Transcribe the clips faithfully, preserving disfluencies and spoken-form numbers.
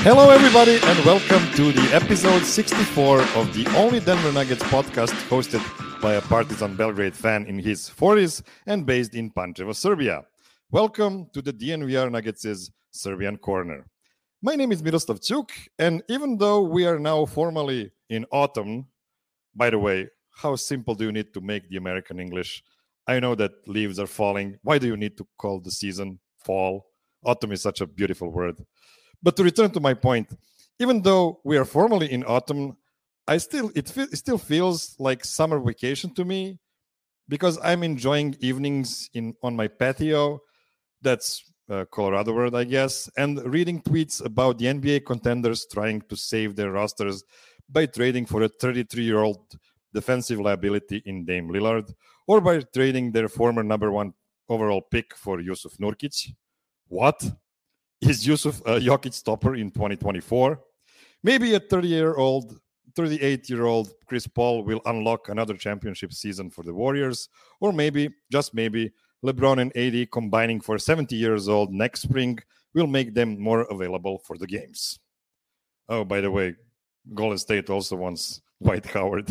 Hello, everybody, and welcome to the episode sixty-four of the only Denver Nuggets podcast hosted by a Partizan Belgrade fan in his forties and based in Pančevo, Serbia. Welcome to the D N V R Nuggets' Serbian Corner. My name is Miroslav Ćuk, and even though we are now formally in autumn, by the way, how simple do you need to make the American English? I know that leaves are falling. Why do you need to call the season fall? Autumn is such a beautiful word. But to return to my point, even though we are formally in autumn, I still it, fe- it still feels like summer vacation to me because I'm enjoying evenings in on my patio. That's a Colorado word, I guess, and reading tweets about the N B A contenders trying to save their rosters by trading for a thirty-three-year-old defensive liability in Dame Lillard, or by trading their former number one overall pick for Jusuf Nurkic. What? Is Jusuf a Jokic stopper in twenty twenty-four? Maybe a thirty-year-old, thirty-eight-year-old Chris Paul will unlock another championship season for the Warriors, or maybe, just maybe, LeBron and A D combining for seventy years old next spring will make them more available for the games. Oh, by the way, Golden State also wants Dwight Howard.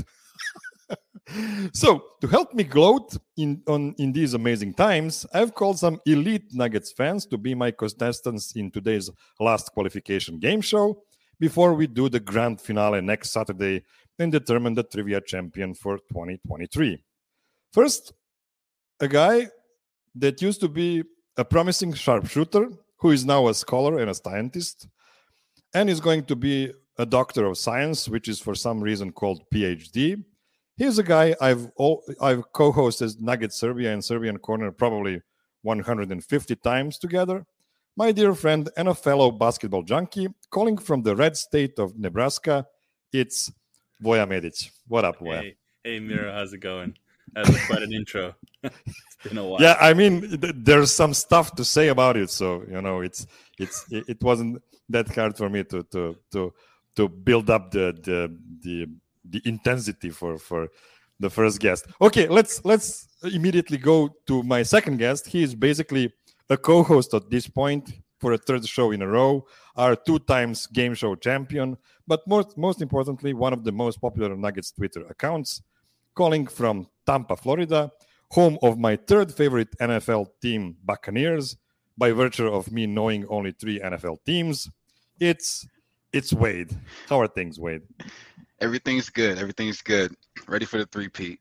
So, to help me gloat in, on, in these amazing times, I've called some elite Nuggets fans to be my contestants in today's last qualification game show before we do the grand finale next Saturday and determine the trivia champion for twenty twenty-three. First, a guy that used to be a promising sharpshooter who is now a scholar and a scientist and is going to be a doctor of science, which is for some reason called P H D. Here's a guy I've all, I've co-hosted Nugget Serbia and Serbian Corner probably one hundred fifty times together. My dear friend and a fellow basketball junkie, calling from the red state of Nebraska, it's Voja Medic. What up, Voja? Hey, hey, Miro, how's it going? That was quite an intro. It's been a while. Yeah, I mean, th- there's some stuff to say about it, so you know, it's it's it, it wasn't that hard for me to to to to build up the the the. the intensity for, for the first guest. Okay, let's let's immediately go to my second guest. He is basically a co-host at this point for a third show in a row, our two times game show champion, but most, most importantly, one of the most popular Nuggets Twitter accounts, calling from Tampa, Florida, home of my third favorite N F L team, Buccaneers, by virtue of me knowing only three N F L teams. It's it's Wade. How are things, Wade? Everything's good. Everything's good. Ready for the three-peat.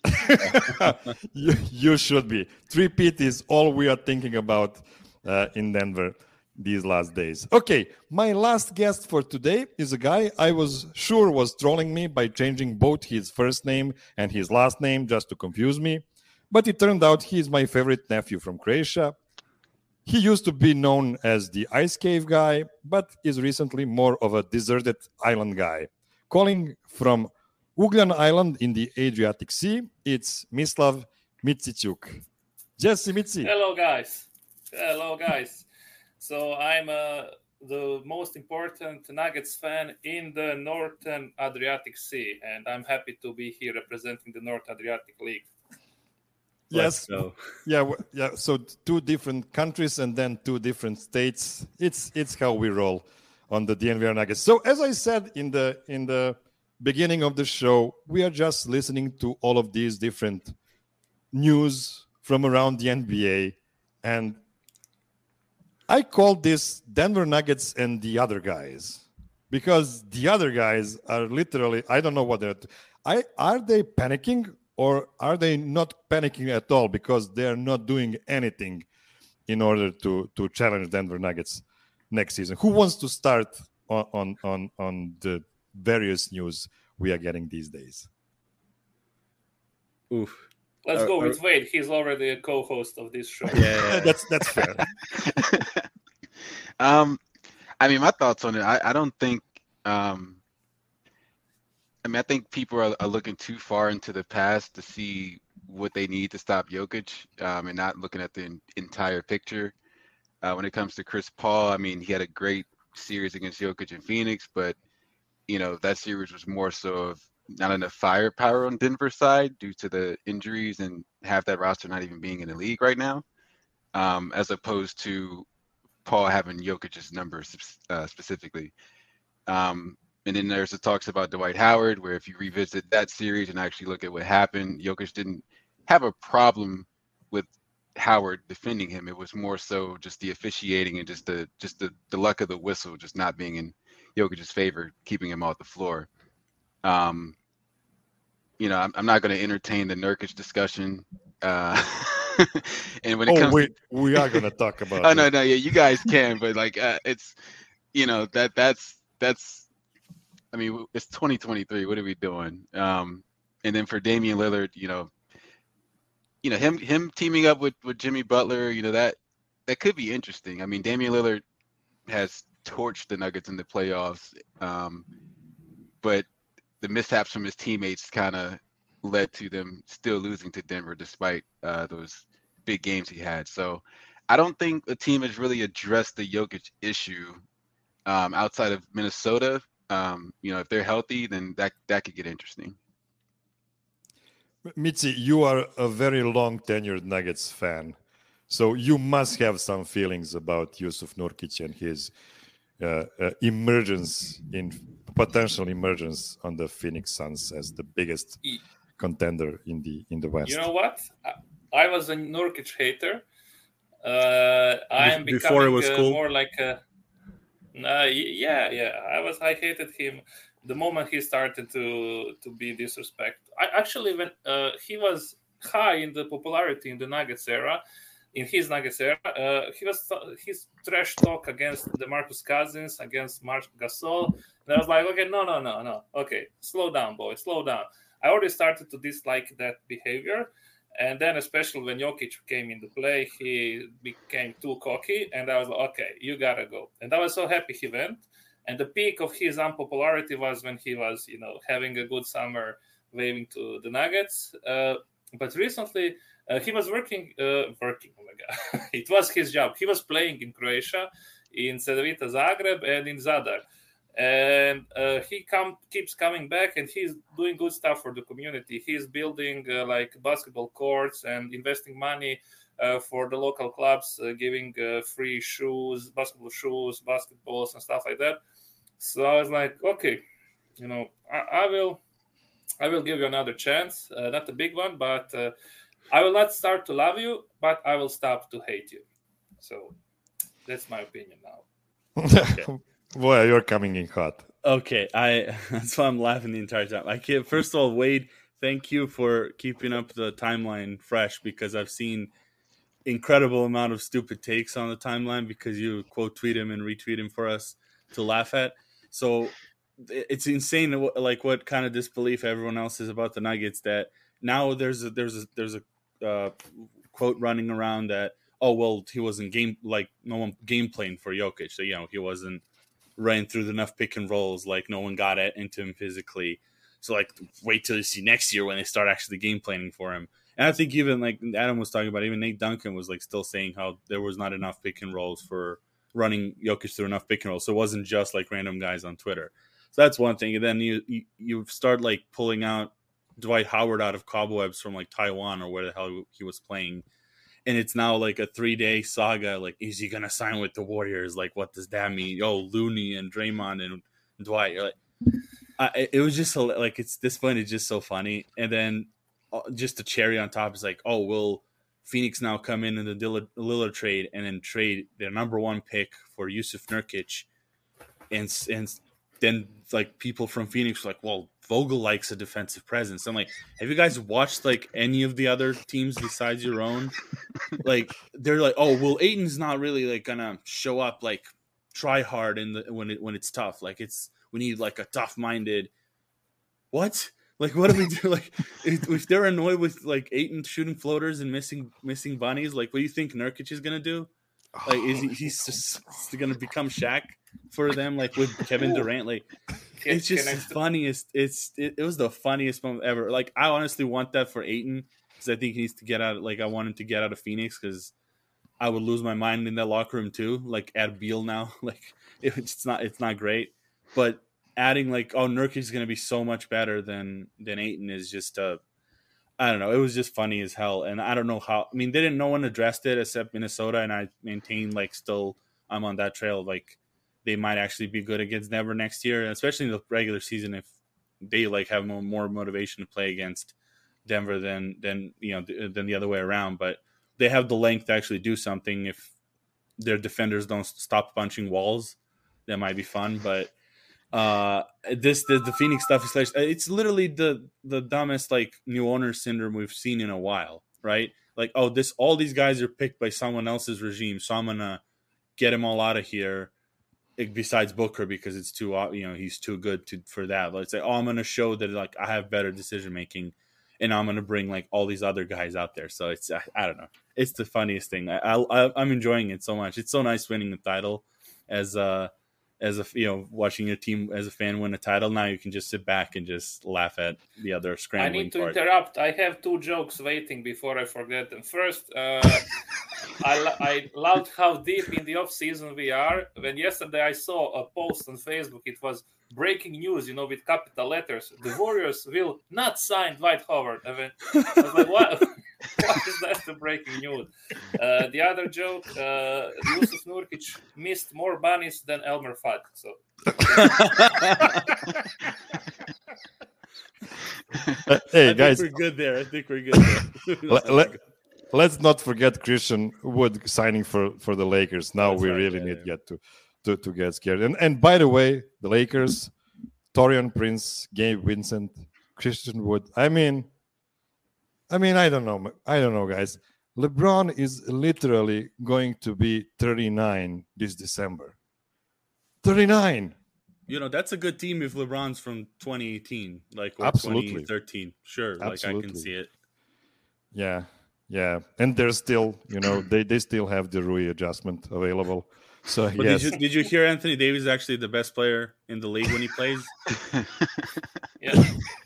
you, you should be. Three-peat is all we are thinking about uh, in Denver these last days. Okay, my last guest for today is a guy I was sure was trolling me by changing both his first name and his last name just to confuse me. But it turned out he is my favorite nephew from Croatia. He used to be known as the Ice Cave guy, but is recently more of a deserted island guy. Calling from Ugljan Island in the Adriatic Sea, it's Mislav Micićuk. Jesse Mici. Hello, guys. Hello, guys. So I'm uh, the most important Nuggets fan in the Northern Adriatic Sea, and I'm happy to be here representing the North Adriatic League. Yes. Yeah. Yeah. So two different countries and then two different states. It's it's how we roll on the D N V R Nuggets. So as I said in the in the beginning of the show, we are just listening to all of these different news from around the N B A, and I call this Denver Nuggets and the other guys because the other guys are literally, I don't know what they're. I are they panicking or are they not panicking at all because they are not doing anything in order to to challenge Denver Nuggets next season? Who wants to start on, on on on the various news we are getting these days? Oof. Let's uh, go with uh, Wade. He's already a co-host of this show. Yeah, that's that's fair. um, I mean, my thoughts on it. I, I don't think. Um, I mean, I think people are, are looking too far into the past to see what they need to stop Jokic, um, and not looking at the in, entire picture. Uh, when it comes to Chris Paul, I mean, he had a great series against Jokic in Phoenix, but you know that series was more so of not enough firepower on Denver's side due to the injuries and half that roster not even being in the league right now, um, as opposed to recall having Jokic's numbers uh, specifically. Um, and then there's the talks about Dwight Howard, where if you revisit that series and actually look at what happened, Jokic didn't have a problem with Howard defending him. It was more so just the officiating and just the just the, the luck of the whistle just not being in Jokic's favor, keeping him off the floor. Um, you know, I'm, I'm not going to entertain the Nurkic discussion. Uh, and when it oh, comes, we to, we are going to talk about. oh it. no, no, yeah, you guys can, but like uh, it's, you know, that that's that's. I mean, it's twenty twenty-three. What are we doing? Um, and then for Damian Lillard, you know, you know him him teaming up with, with Jimmy Butler, you know that that could be interesting. I mean, Damian Lillard has torched the Nuggets in the playoffs, um, but the mishaps from his teammates kind of led to them still losing to Denver despite uh, those big games he had. So I don't think the team has really addressed the Jokic issue um, outside of Minnesota. Um, you know, if they're healthy, then that that could get interesting. Mitzi, you are a very long tenured Nuggets fan, so you must have some feelings about Yusuf Nurkic and his uh, uh, emergence in potential emergence on the Phoenix Suns as the biggest contender in the in the West. You know what? I, I was a Nurkic hater. Uh, I am becoming Before it was uh, cool. more like a. Uh, yeah, yeah. I was. I hated him the moment he started to to be disrespect. I actually when uh, he was high in the popularity in the Nuggets era, in his Nuggets era, uh, he was his trash talk against DeMarcus Cousins, against Marc Gasol. And I was like, okay, no, no, no, no. Okay, slow down, boy, slow down. I already started to dislike that behavior. And then, especially when Jokic came into play, he became too cocky. And I was like, okay, you got to go. And I was so happy he went. And the peak of his unpopularity was when he was, you know, having a good summer, waving to the Nuggets. Uh, but recently, uh, he was working, uh, working, oh my God. It was his job. He was playing in Croatia, in Cedevita Zagreb, and in Zadar. And uh, he come keeps coming back, and he's doing good stuff for the community. He's building uh, like basketball courts and investing money uh, for the local clubs, uh, giving uh, free shoes, basketball shoes, basketballs, and stuff like that. So I was like, okay, you know, I, I will, I will give you another chance. Uh, not a big one, but uh, I will not start to love you, but I will stop to hate you. So that's my opinion now. Okay. Boy, you're coming in hot. Okay, I that's why I'm laughing the entire time. I can't. First of all, Wade, thank you for keeping up the timeline fresh, because I've seen incredible amount of stupid takes on the timeline because you quote tweet him and retweet him for us to laugh at. So it's insane, like what kind of disbelief everyone else is about the Nuggets. That now there's a, there's a, there's a uh, quote running around that, oh well, he wasn't game like no one game playing for Jokic, so you know he wasn't ran through enough pick and rolls, like no one got at, into him physically. So like wait till you see next year when they start actually game planning for him. And I think even like Adam was talking about, even Nate Duncan was like still saying how there was not enough pick and rolls for running Jokic through enough pick and rolls. So it wasn't just like random guys on Twitter. So that's one thing. And then you you, you start like pulling out Dwight Howard out of cobwebs from like Taiwan or where the hell he was playing. And it's now like a three-day saga. Like, is he going to sign with the Warriors? Like, what does that mean? Oh, Looney and Draymond and Dwight. You're like, I, it was just so, like, it's this point is just so funny. And then uh, just a cherry on top is like, oh, will Phoenix now come in in the Lillard, Lillard trade and then trade their number one pick for Yusuf Nurkic? And, and then, like, people from Phoenix were like, well, Vogel likes a defensive presence. I'm like, have you guys watched like any of the other teams besides your own? Like, they're like, oh, well, Ayton's not really like gonna show up, like try hard in the when it when it's tough. Like it's we need like a tough minded. What? Like, what do we do? Like, if, if they're annoyed with like Ayton shooting floaters and missing missing bunnies, like, what do you think Nurkic is gonna do? Like, is he he's just gonna become Shaq for them? Like with Kevin Durant, like. Can, it's just the st- funniest. It's it, it was the funniest moment ever. Like I honestly want that for Ayton because I think he needs to get out. Like I want him to get out of Phoenix because I would lose my mind in that locker room too. Like add Beal now. Like it, it's not it's not great. But adding like oh Nurkic is going to be so much better than than Ayton is just uh I don't know. It was just funny as hell. And I don't know how. I mean, they didn't. No one addressed it except Minnesota, and I maintain like still I'm on that trail. Like they might actually be good against Denver next year, especially in the regular season if they like have more, more motivation to play against Denver than than you know than the other way around. But they have the length to actually do something if their defenders don't stop punching walls. That might be fun, but uh, this the, the Phoenix stuff is like it's literally the the dumbest like new owner syndrome we've seen in a while, right? Like, oh, this all these guys are picked by someone else's regime, so I'm gonna get them all out of here. Besides Booker, because it's too you know he's too good to for that. Let's say, oh, I'm gonna show that like I have better decision making, and I'm gonna bring like all these other guys out there. So it's I, I don't know. It's the funniest thing. I, I I'm enjoying it so much. It's so nice winning the title, as uh as a you know watching your team as a fan win a title. Now you can just sit back and just laugh at the other scrambling. I need to part. interrupt. I have two jokes waiting before I forget them. First, uh, I, lo- I loved how deep in the off season we are. When yesterday I saw a post on Facebook, it was breaking news, you know, with capital letters. The Warriors will not sign Dwight Howard. I, mean, I was like, what? What is that the breaking news? Uh, the other joke, uh, Yusuf Nurkic missed more bunnies than Elmer Fudd. So. Uh, hey I guys, think we're good there. I think we're good there. let, let, let's not forget Christian Wood signing for, for the Lakers. Now That's we right, really yeah, need yeah. get to, to to get scared. And and by the way, the Lakers, Torian Prince, Gabe Vincent, Christian Wood. I mean, I mean, I don't know. I don't know, guys. LeBron is literally going to be thirty-nine this December. thirty-nine. You know, that's a good team if LeBron's from twenty eighteen, like or Absolutely. twenty thirteen. Sure, like I Absolutely. can see it. Yeah, yeah. And they're still, you know, they, they still have the Rui adjustment available. So But yes. did you did you hear Anthony Davis is actually the best player in the league when he plays? Yeah.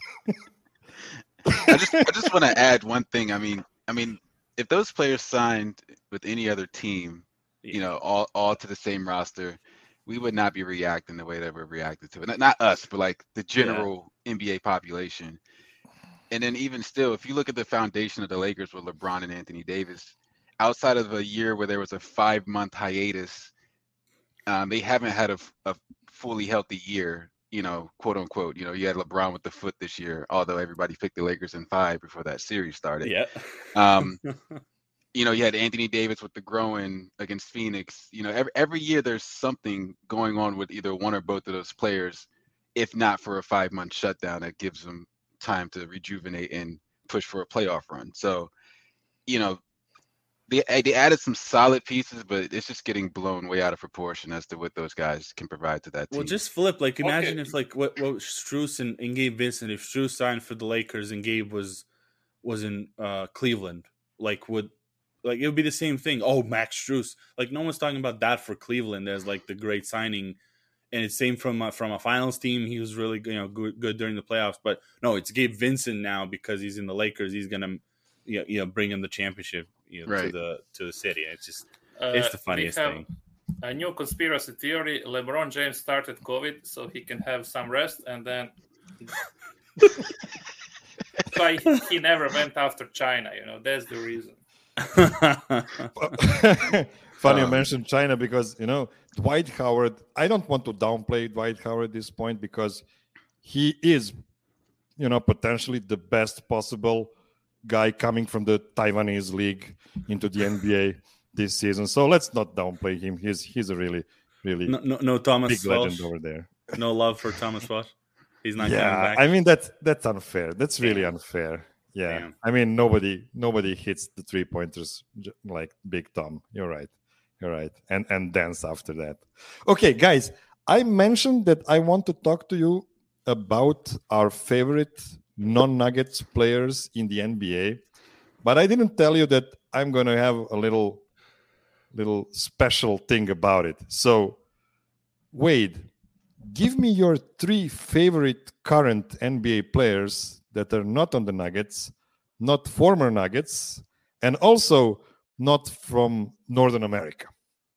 I just I just want to add one thing. I mean, I mean, if those players signed with any other team, you know, all all to the same roster, we would not be reacting the way that we're reacting to it. Not, not us, but like the general N B A population. And then even still, if you look at the foundation of the Lakers with LeBron and Anthony Davis, outside of a year where there was a five-month hiatus, um, they haven't had a, a fully healthy year, you know, quote unquote. You know, you had LeBron with the foot this year, although everybody picked the Lakers in five before that series started. Yeah. Um, you know, you had Anthony Davis with the groin against Phoenix. You know, every every year there's something going on with either one or both of those players, if not for a five-month shutdown that gives them time to rejuvenate and push for a playoff run. So, you know, they they added some solid pieces, but it's just getting blown way out of proportion as to what those guys can provide to that team. Well, just flip. Like, imagine Okay. if like what what Strus and, and Gabe Vincent, if Strus signed for the Lakers and Gabe was was in uh, Cleveland, like would like it would be the same thing. Oh, Max Strus. Like no one's talking about that for Cleveland as like the great signing. And it's same from a, from a finals team. He was really you know good, good during the playoffs. But no, it's Gabe Vincent now because he's in the Lakers. He's gonna you know, you know bring him the championship you know, to Right. the to the city. It's just Uh, it's the we funniest have thing. a new conspiracy theory. LeBron James started COVID so he can have some rest, and then why he never went after China. You know, that's the reason. Funny you Um, mentioned China because, you know, Dwight Howard, I don't want to downplay Dwight Howard at this point because he is, you know, potentially the best possible guy coming from the Taiwanese league into the N B A this season. So let's not downplay him. He's he's a really, really no, no, no Thomas big legend Welsh. over there. No love for Thomas Welsh. He's not coming Yeah, back. I mean that's that's unfair. That's really Damn. unfair. Yeah, Damn. I mean nobody nobody hits the three pointers like Big Tom. You're right. You're right. And and dance after that. Okay, guys, I mentioned that I want to talk to you about our favorite non-Nuggets players in the N B A, but I didn't tell you that I'm going to have a little little special thing about it. So, Wade, give me your three favorite current N B A players that are not on the Nuggets, not former Nuggets, and also not from Northern America.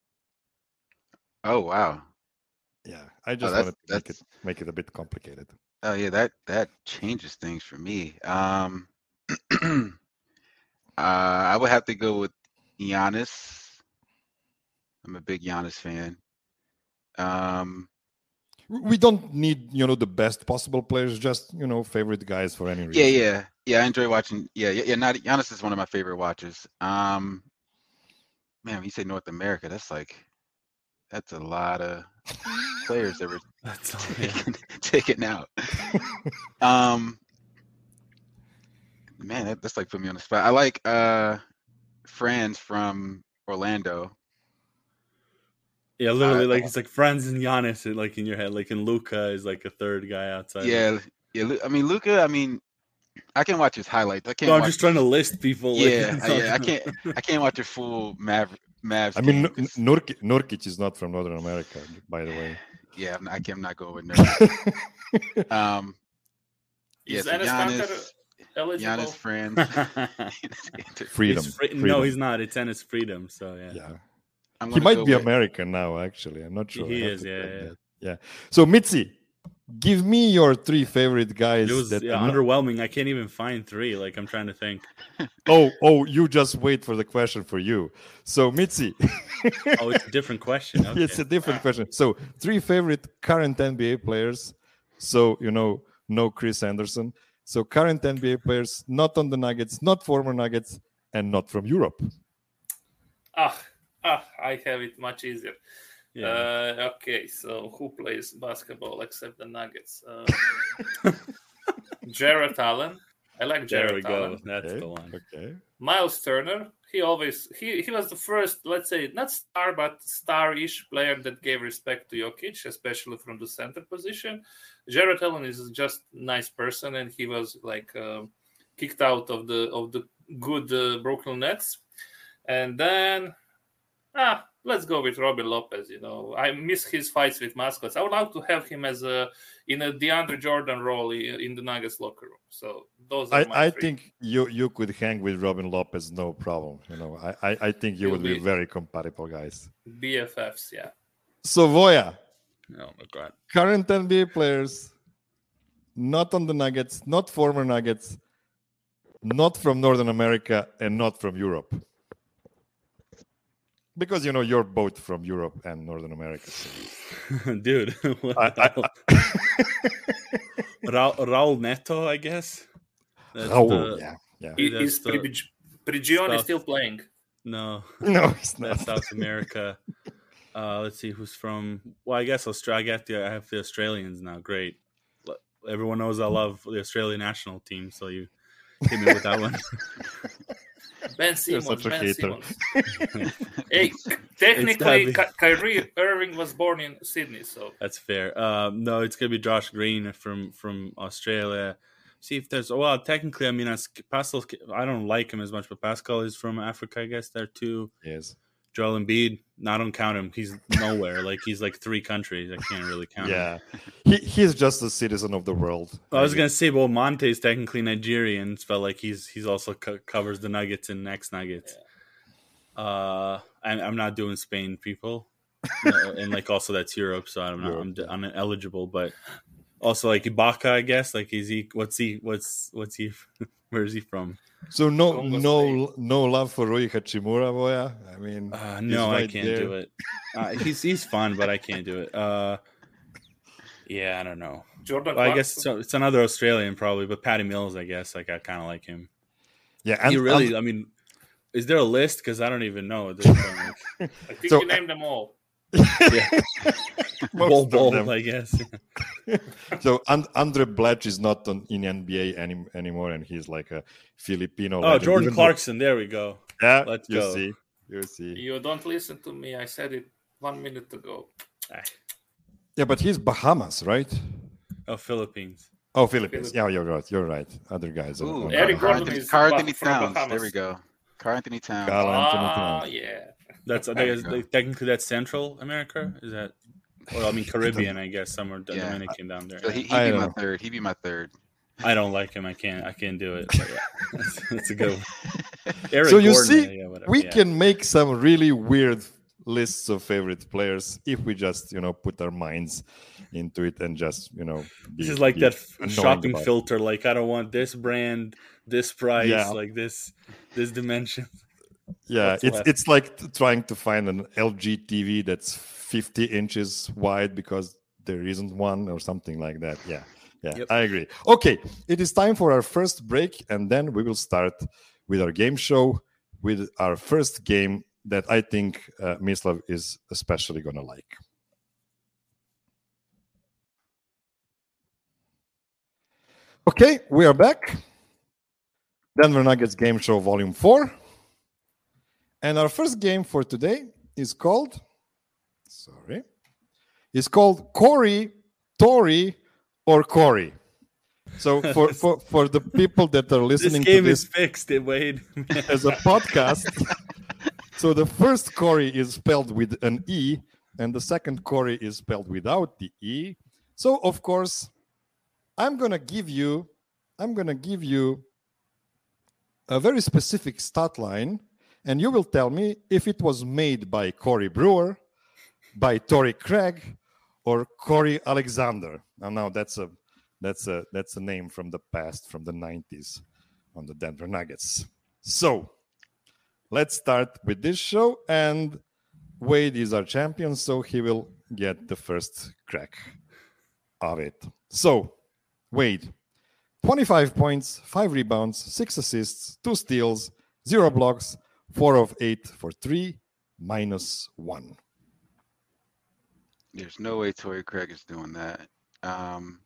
Oh wow. Yeah, I just that's- wanted to make it that's- make it a bit complicated. Oh yeah, that that changes things for me. Um, uh, I would have to go with Giannis. I'm a big Giannis fan. Um, We don't need, you know, the best possible players, just, you know, favorite guys for any reason. yeah, yeah, yeah. I enjoy watching. Yeah, yeah, yeah. Not Giannis is one of my favorite watchers. Um, man, when you say North America, that's like that's a lot of players that were That's all, taken, taken out. um, man, that, that's like put me on the spot. I like uh, Franz from Orlando. Yeah, literally, Uh, like it's like Franz and Giannis, like in your head, like in Luca is like a third guy outside. Yeah, yeah. Lu- I mean, Luca. I mean, I can watch his highlights. I can't. No, I'm watch just trying to list people. Like, Yeah, it's uh, not- yeah. I can't. I can't watch a full Mav Mavs. I mean, game 'cause- Nurkic, Nurkic is not from Northern America, by the way. yeah, I'm not, I can't, I'm not going with Nurkic. um, yeah, Is so Enes Kanter Giannis, eligible? Giannis, friends. Freedom. It's free- Freedom. No, he's not. It's Ennis Freedom. So yeah. Yeah. I'm He gonna might go be with- American now, actually. I'm not sure. He I have is, to yeah, check yeah. that. Yeah. So, Mitzi, give me your three favorite guys. It was that yeah, are not- underwhelming. I can't even find three. Like I'm trying to think. Oh, oh, you just wait for the question for you. So, Mitzi, Oh, it's a different question. Okay. it's a different question. So, three favorite current N B A players. So, you know, no Chris Anderson. So, current N B A players, not on the Nuggets, not former Nuggets, and not from Europe. Ah, ah, I have it much easier. Yeah. Uh, okay, so who plays basketball except the Nuggets? Um, Jarrett Allen. I like there we Jarrett go. Allen. That's Okay. the one. Okay. Miles Turner. He always he, he was the first, let's say, not star but star-ish player that gave respect to Jokic, especially from the center position. Jarrett Allen is just nice person, and he was like uh, kicked out of the of the good uh, Brooklyn Nets, and then ah. Let's go with Robin Lopez. You know, I miss his fights with mascots. I would like to have him as a in a DeAndre Jordan role i- in the Nuggets locker room. So those are my I, I three. think you you could hang with Robin Lopez, no problem. You know, I, I, I think you You'll would be be- very compatible guys. B F Fs. Yeah. So, Voya, Oh my god. current N B A players, not on the Nuggets, not former Nuggets, not from Northern America, and not from Europe. Because, you know, you're both from Europe and Northern America. So. Dude. what I- the hell? Ra- Raul Neto, I guess. That's Oh, the- yeah, yeah. I- That's Is the Prigi- Prigioni South- still playing? No, No, it's not. that's South America. Uh, let's see who's from. Well, I guess Australia. I get the. I have the Australians now. Great. L- Everyone knows I love the Australian national team, so you hit me with that one. Ben You're Simmons. such a Ben hater. Simmons. Hey, technically, be- Ky- Kyrie Irving was born in Sydney, so That's fair. Um, no, it's gonna be Josh Green from from Australia. See if there's. Well, technically, I mean, as Pascal, I don't like him as much, but Pascal is from Africa, I guess. There too. Yes. Joel Embiid. No, I don't count him. He's nowhere. like he's like three countries. I can't really count him. Yeah. He, he's just a citizen of the world. I was gonna say, well, Monte's technically Nigerian, but like he's he's also co- covers the Nuggets and ex Nuggets. Uh, I'm I'm not doing Spain people, No, and like also that's Europe, so I'm not I'm, Europe, I'm ineligible. But also like Ibaka, I guess. Like is he? What's he? What's what's he? Where is he from? So no Congo no no love for Rui Hachimura, Voya? I mean, Uh, he's no, I right can't there. do it. Uh, he's he's fun, but I can't do it. Uh, yeah, I don't know. Jordan. Well, I guess Clarkson. so, it's another Australian probably, but Patty Mills, I guess. Like I kind of like him. Yeah, and, you really? and- I mean, is there a list? Because I don't even know. There's, um, I think so- you named them all. yeah, most Bol of Bol, them. I guess. So and, Andre Blatch is not on, in N B A any, anymore, and he's like a Filipino. Oh, legend, Jordan even though- Clarkson. There we go. Yeah, Let's you go. see, you see. You don't listen to me. I said it one minute ago. Ah, Yeah, but he's Bahamas, right? Oh, Philippines. Oh, Philippines. Yeah, you're right. You're right. Other guys. are Ooh, on Eric Bahamas. Gordon is Carl Bah- Anthony from Towns. Bahamas. There we go. Carl Anthony Towns. Carl Anthony Ah, Towns. yeah. That's I There think you it's, go. like, technically that's Central America. Is that? Well, I mean Caribbean, I guess. Somewhere Yeah. Dominican down there. So he, he'd I be my know. third. He'd be my third. I don't like him. I can't. I can't do it. But yeah, that's, that's a good one. Eric So you Gordon, see, yeah, whatever, we yeah. can make some really weird lists of favorite players if we just, you know, put our minds into it and just, you know, be, This is like be that f- annoying shopping about it. filter. Like I don't want this brand, this price, Yeah. like this, this dimension. Yeah, What's it's left? it's like t- trying to find an L G T V that's fifty inches wide because there isn't one or something like that. Yeah, yeah, Yep. I agree. Okay, it is time for our first break, and then we will start with our game show with our first game that I think uh, Mislav is especially gonna like. Okay, we are back. Denver Nuggets Game Show Volume four. And our first game for today is called, sorry, is called Corey, Tori, or Corey. So for, for, for the people that are This listening game to is this fixed, it Wade. as a podcast, so the first Corey is spelled with an E, and the second Corey is spelled without the E. So of course, I'm gonna give you, I'm gonna give you a very specific stat line, and you will tell me if it was made by Corey Brewer, by Torrey Craig, or Corey Alexander. Now, now that's a that's a that's a name from the past, from the nineties, on the Denver Nuggets. So let's start with this show, and Wade is our champion, so he will get the first crack of it. So, Wade, twenty-five points, five rebounds, six assists, two steals, zero blocks, four of eight for three, minus one. There's no way Torrey Craig is doing that. Um,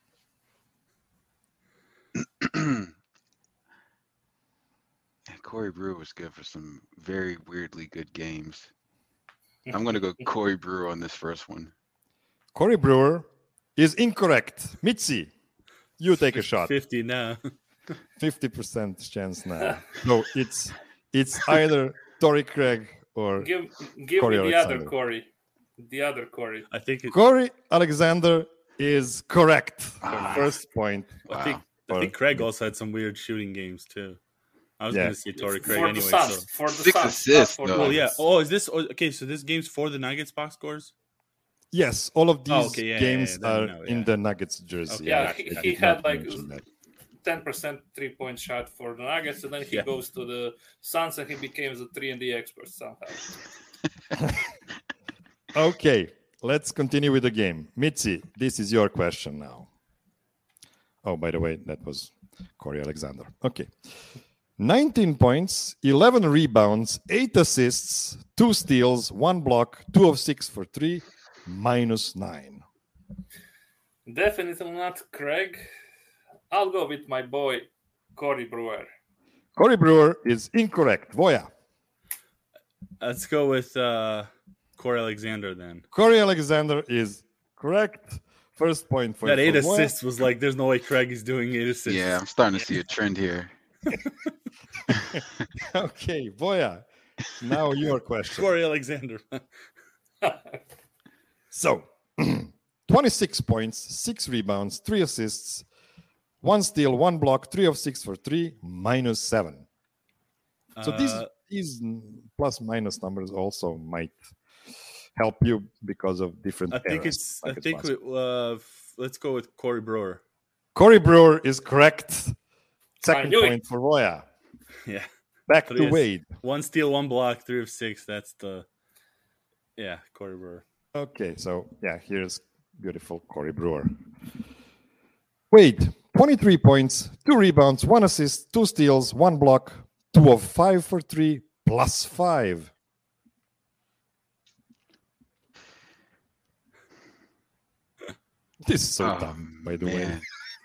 Corey Brewer was good for some very weirdly good games. I'm going to go Corey Brewer on this first one. Corey Brewer is incorrect. Mitzi, you take a shot. fifty now. fifty percent chance now. No, it's it's either Torrey Craig or Give give Corey me the Alexander. other Corey. The other Corey. I think it, Corey Alexander is correct. Ah. First point. I think I Or- think Craig also had some weird shooting games too. I was Yeah. going to say Torrey Craig for anyway. the Suns. So. For the Six Suns, assists, not for the though. Oh yeah. Nuggets. Oh, is this okay? So this game's for the Nuggets box scores. Yes, all of these Oh, okay, yeah, yeah, games yeah, then are no, in yeah. the Nuggets jersey. Okay, Yeah, I- he, I he did had not like mention that. ten percent three point shot for the Nuggets, and then he Yeah. goes to the Suns and he became the three and D expert somehow. Okay, let's continue with the game. Mitzi, this is your question now. Oh, by the way, that was Corey Alexander. Okay. nineteen points, eleven rebounds, eight assists, two steals, one block, two of six for three, minus nine. Definitely not Craig. I'll go with my boy Corey Brewer. Corey Brewer is incorrect. Voya. Let's go with uh, Corey Alexander then. Corey Alexander is correct. First point for That eight for Voya. assists was like, there's no way Craig is doing eight assists. Yeah, I'm starting to see a trend here. Okay, Voya. Now your question. Corey Alexander. So, twenty-six points, six rebounds, three assists, one steal, one block, three of six for three, minus seven. So these Uh, these plus minus numbers also might help you because of different. I think eras, it's. like I think we, possible. uh, f- let's go with Corey Brewer. Corey Brewer is correct. Second knew it. point for Voya. Yeah, Back But to yes. Wade. one steal, one block, three of six. That's the. Yeah, Corey Brewer. Okay, so yeah, here's beautiful Corey Brewer. Wade, twenty-three points, two rebounds, one assist, two steals, one block, two of five for three, plus five. This is so Oh, dumb, by the way. man.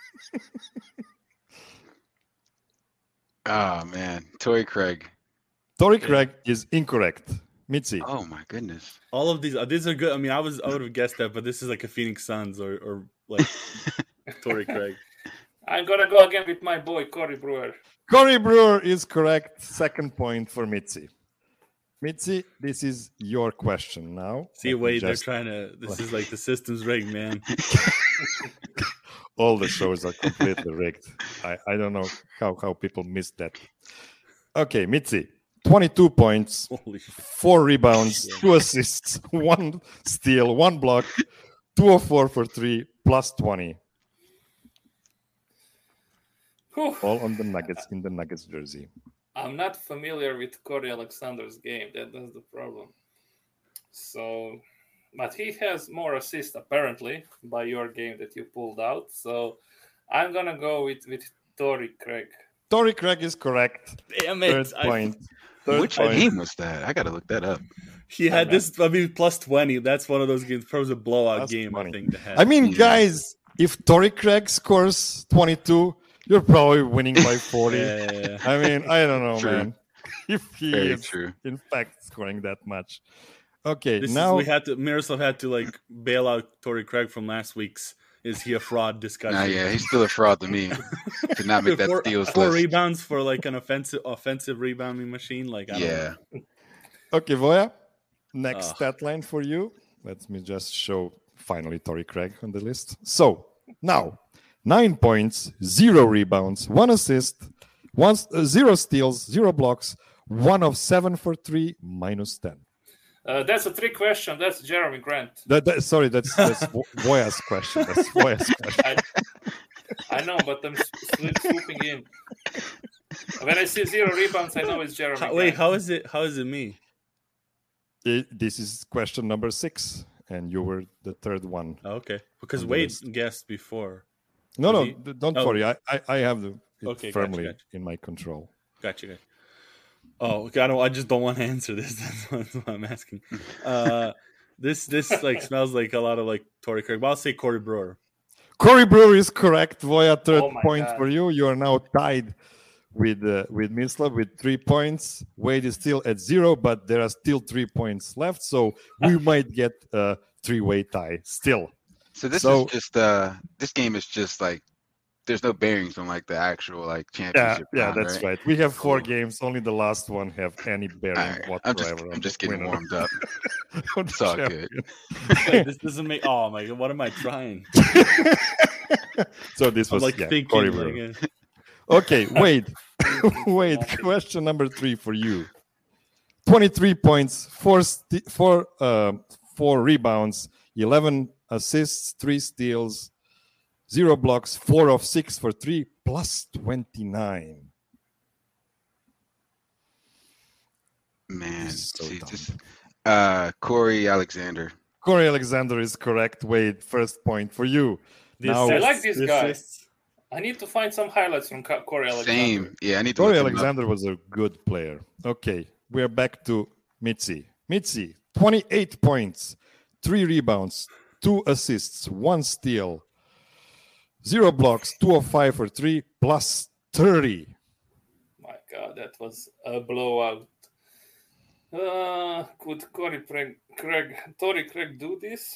Oh man, Torrey Craig. Torrey Craig is incorrect. Mitzi. Oh my goodness. All of these, uh, these are good. I mean, I was, I would have guessed that, but this is like a Phoenix Suns or, or like Torrey Craig. I'm gonna go again with my boy Corey Brewer. Corey Brewer is correct. Second point for Mitzi. Mitzi, this is your question now. See, Let me Wade, just- they're trying to. This is like the system's rigged, man. All the shows are completely rigged. I, I don't know how, how people missed that. Okay, Mitzi, twenty-two points, Holy shit. four rebounds, Yeah. two assists, one steal, one block, two of four for three, plus twenty. Whew. All on the Nuggets in the Nuggets jersey. I'm not familiar with Corey Alexander's game. That, that's the problem. So, but he has more assists apparently by your game that you pulled out. So, I'm gonna go with with Torrey Craig. Torrey Craig is correct. Damn it! Third I- point. Third Which point. game was that? I gotta look that up. He had I'm this. I mean, plus twenty. That's one of those games. Probably a blowout Plus game. twenty. I think to have. I mean, Yeah. guys, if Torrey Craig scores twenty-two, you're probably winning by forty. Yeah, yeah, yeah. I mean, I don't know, True. man. If he Very is, true. in fact, scoring that much. Okay, This now is, we had to. Miroslav had to like bail out Torrey Craig from last week's. Is he a fraud discussion? Nah, yeah, he's still a fraud to me. Did not make that four, steals four list. rebounds for like an offensive offensive rebounding machine. Like I don't Yeah. know. Okay, Voya, next Ugh. stat line for you. Let me just show finally Torrey Craig on the list. So now, nine points, zero rebounds, one assist, one uh, zero steals, zero blocks, one of seven for three, minus ten. Uh, that's a trick question. That's Jeremy Grant. That, that, sorry, that's that's Vo- Voya's question. That's Voya's question. I, I know, but I'm sw- swooping in. When I see zero rebounds, I know it's Jeremy. How, Grant. wait, how is it? How is it me? It- this is question number six, and you were the third one. Oh, okay, because On the Wade list. guessed before. No, no, Was he- d- don't oh. worry. I, I, I have the, it Okay, gotcha, firmly gotcha. in my control. Gotcha. gotcha. Oh, okay, I don't. I just don't want to answer this. That's what, that's what I'm asking. Uh, this this like smells like a lot of like Torrey Craig. But I'll say Corey Brewer. Corey Brewer is correct. Voya, third Oh my point God. for you. You are now tied with uh, with Mislav with three points. Wade is still at zero, but there are still three points left. So we might get a three-way tie still. So this So- is just uh this game is just like there's no bearings on like the actual like Yeah, championship. yeah, round, that's right. right. We have four Cool. games. Only the last one have any bearing All right. whatsoever. I'm just on I'm just the getting winner warmed up. of the It's all good. champion. Wait, this doesn't make. Oh my god, what am I trying? So this I'm was like yeah, thinking. Corey Like, Brewer. uh, Okay, wait, wait. Question number three for you. Twenty-three points, four, st- four, uh, four rebounds, eleven assists, three steals, zero blocks, four of six for three, plus twenty-nine. Man, This is so see, dumb. just uh Corey Alexander. Corey Alexander is correct. Wade, first point for you. the Now- I assists- like this the guy. assists. I need to find some highlights from Ca- Corey Alexander. Same. Yeah, I need to Corey look him up. Alexander was a good player. Okay, we're back to Mitzi. Mitzi, twenty-eight points, three rebounds, two assists, one steal, zero blocks, two of five for three, plus thirty. My God, that was a blowout. Uh, could Corey Craig, Craig, Torrey Craig do this?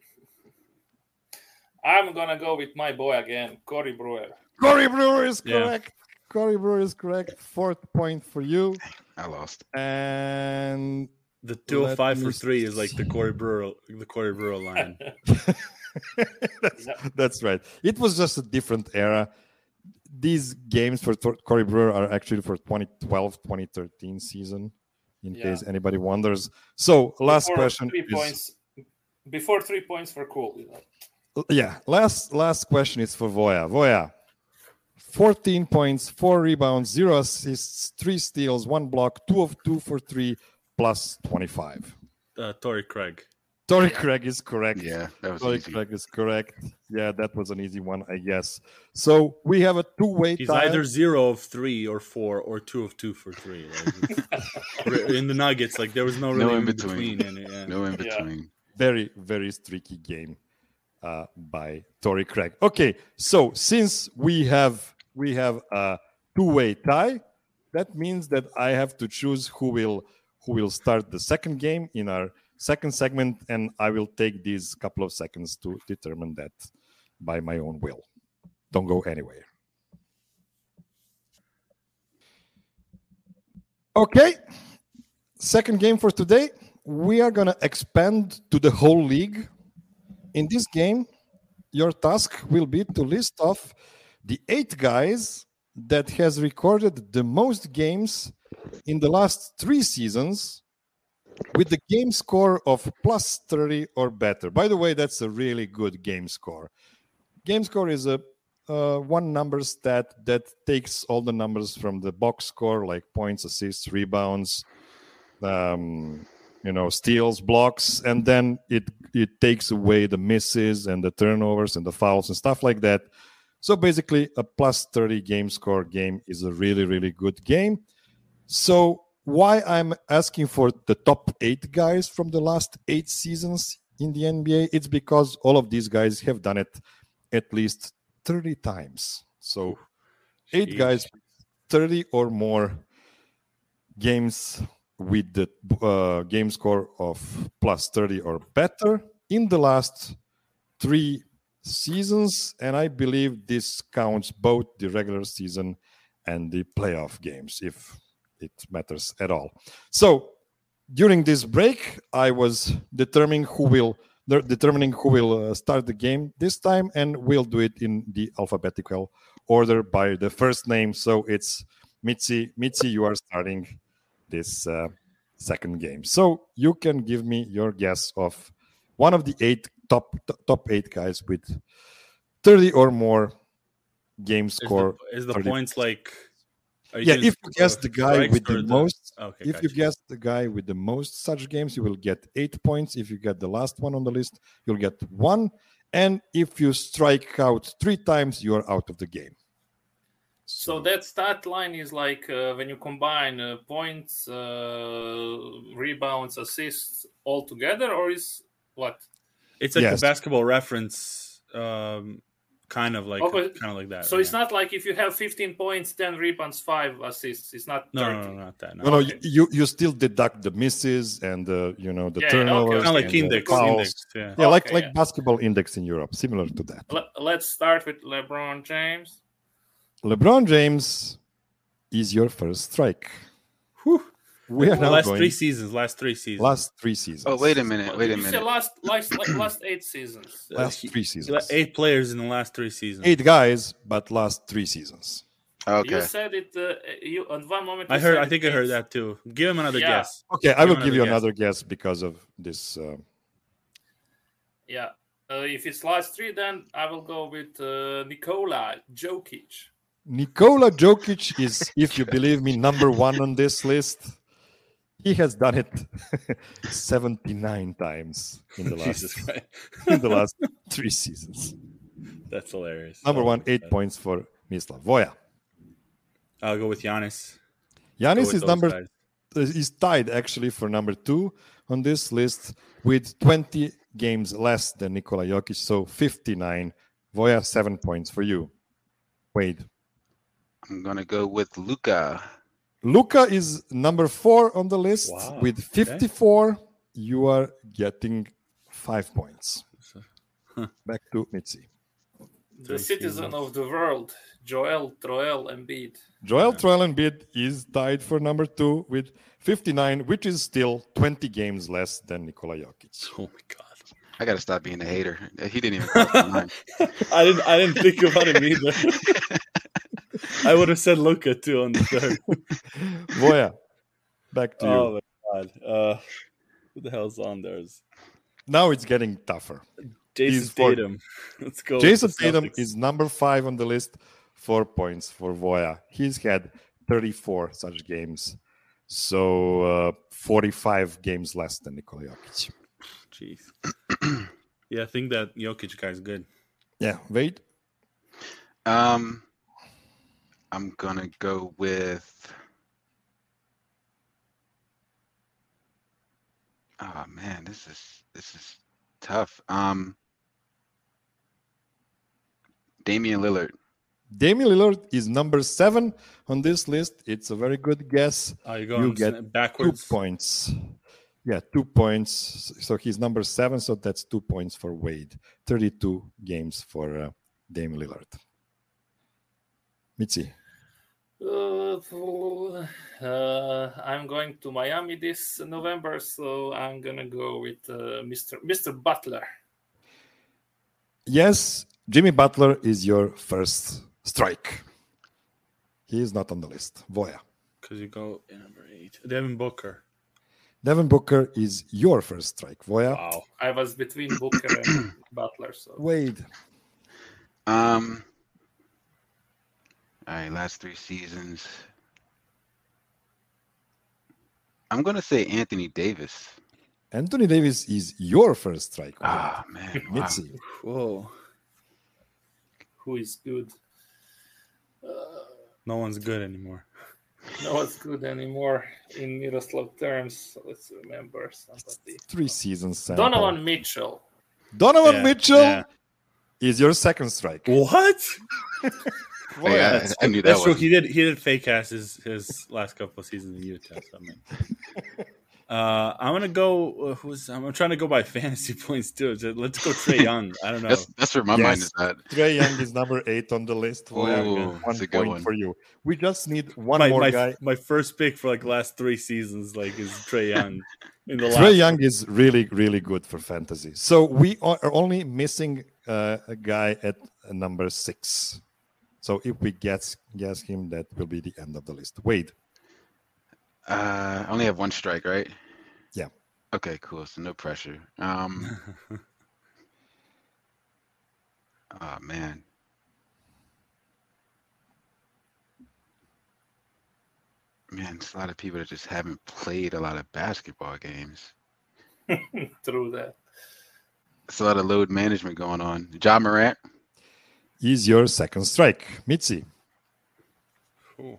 I'm gonna go with my boy again, Corey Brewer. Corey Brewer is Yeah. correct. Corey Brewer is correct. Fourth point for you. I lost. And The two of five Let for me three is like the Corey Brewer, the Corey Brewer line. that's, Yeah. that's right. It was just a different era. These games for Tor- Corey Brewer are actually for twenty twelve twenty thirteen season, in Yeah. case anybody wonders. So, last Before question Three is, points. Before three points were cool. You know? yeah, last last question is for Voya. Voya, fourteen points, four rebounds, zero assists, three steals, one block, two of two for three, plus twenty-five. Uh, Torrey Craig. Torrey Craig is correct. Yeah, that was Torrey easy. Craig is correct. Yeah, that was an easy one, I guess. So we have a two-way He's tie. either zero of three or four or two of two for three. Like, in the Nuggets, like there was no really No in in between. between. in it, yeah. No in Yeah. between. Very, very streaky game uh, by Torrey Craig. Okay, so since we have we have a two-way tie, that means that I have to choose who will who will start the second game in our second segment, and I will take these couple of seconds to determine that by my own will. Don't go anywhere. Okay, second game for today. We are going to expand to the whole league. In this game, your task will be to list off the eight guys that has recorded the most games in the last three seasons with the game score of plus thirty or better. By the way, that's a really good game score. Game score is a uh, one number stat that takes all the numbers from the box score, like points, assists, rebounds, um, you know, steals, blocks, and then it it takes away the misses and the turnovers and the fouls and stuff like that. So basically, a plus thirty game score game is a really, really good game. So why I'm asking for the top eight guys from the last eight seasons in the N B A, it's because all of these guys have done it at least thirty times. So eight Jeez. guys, thirty or more games with the uh, game score of plus thirty or better in the last three seasons. And I believe this counts both the regular season and the playoff games, if it matters at all. So during this break, I was determining who will de- determining who will uh, start the game this time, and we'll do it in the alphabetical order by the first name. So it's Mitzi. Mitzi, you are starting this uh, second game. So you can give me your guess of one of the eight top t- top eight guys with thirty or more game score. Is the, is the thirty points like? Are Yeah, doing if you guess uh, the guy strikes with or the most, Okay, if you gotcha. guess the guy with the most such games, you will get eight points. If you get the last one on the list, you'll get one. And if you strike out three times, you are out of the game. So that stat line is like uh, when you combine uh, points, uh, rebounds, assists all together, or is what? It's like Yes. the basketball reference, um, kind of like Okay. kind of like that. So right? it's not like if you have fifteen points, ten rebounds, five assists. It's not No, thirty. no, no, not that. No, No, no, Okay. you you still deduct the misses and the you know the Yeah, yeah, okay, turnovers. okay. kind of like and the index, fouls. index. Yeah. Yeah, like Okay, like yeah. basketball index in Europe, similar to that. Let, let's start with LeBron James. LeBron James is your first strike. Whew. We are now last going three seasons. Last three seasons. last three seasons. Oh, wait a minute. Wait a You said minute. last, last, like, last eight seasons. Uh, Last he- three he- seasons. Eight players in the last three seasons. Eight guys, but last three seasons. You Okay. said it. Uh, you at one moment. I you heard. said I think I heard it's- that too. Give him another Yeah. guess. Okay, I will Give give you another another guess because of this. Uh, Yeah. Uh, if it's last three, then I will go with uh, Nikola Jokic. Nikola Jokic is, if you believe me, number one on this list. He has done it seventy-nine times in the Jesus last Christ. in the last three seasons. That's hilarious. Number Oh, one, eight God. points for Mislav Voja. I'll go with Giannis. Go Giannis with is those number guys. is tied actually for number two on this list with twenty games less than Nikola Jokic, so fifty-nine. Voja, seven points for you. Wade. I'm gonna go with Luca. Luca is number four on the list Wow, with okay. fifty-four. You are getting five points. Huh. Back to Mitzi. The Three citizen seasons. of the world, Joel Troel Embiid. Joel Yeah. Troel Embiid is tied for number two with fifty-nine, which is still twenty games less than Nikola Jokic. Oh my God. I gotta stop being a hater. He didn't even cross my mind. I didn't. I didn't think about him either. I would have said Luca too on the third. Voja, back to you. Oh my God. Uh, who the hell's on theirs? Now it's getting tougher. Jason He's four. Tatum. Let's go. with Jason the Tatum Celtics. is number five on the list, four points for Voja. He's had thirty-four such games, so uh, forty-five games less than Nikola Jokic. Jeez. Yeah, I think that Jokic guy's good. Yeah, wait. Um, I'm gonna go with. Oh man, this is this is tough. Um, Damian Lillard. Damian Lillard is number seven on this list. It's a very good guess. Oh, you're going get s- Two backwards. points. Yeah, two points. So he's number seven, so that's two points for Wade. thirty-two games for uh, Damian Lillard. Mitzi. Uh, uh, I'm going to Miami this November, so I'm gonna go with uh, Mister Mister Butler. Yes, Jimmy Butler is your first strike. He is not on the list. Voja. Because you go in number eight. Devin Booker. Devin Booker is your first strike. Voja. Wow. I was between Booker and Butler, so Wade. Um, All right, last three seasons. I'm gonna say Anthony Davis. Anthony Davis is your first strike. Ah, man. Wow. Mitzi. Whoa. Who is good? Uh, No one's good anymore. no one's good anymore in Miroslav terms. So let's remember somebody. Three seasons. sample. Donovan Mitchell. Donovan Yeah, Mitchell yeah. is your second strike. What? Well, Hey, I, That's, I knew that that's true. was. He did. He did fake ass his, his last couple of seasons in Utah. So I mean, uh, I'm gonna go. Uh, who's? I'm trying to go by fantasy points too. So let's go Trae Young. I don't know. That's that's where my mind Yes. is at. Trae Young is number eight on the list. Ooh, Yeah, that's one a good point one. for you. We just need one my more my, guy. my first pick for like last three seasons like is Trae Young. In the Trae last Young is really, really good for fantasy. So we are only missing uh, a guy at uh, number six. So if we guess guess him, that will be the end of the list. Wade. Uh, I only have one strike, right? Yeah. Okay, cool. So no pressure. Um. Oh man. Man, it's a lot of people that just haven't played a lot of basketball games. True that. It's a lot of load management going on. Ja Morant. Is your second strike. Mitzi. Ooh.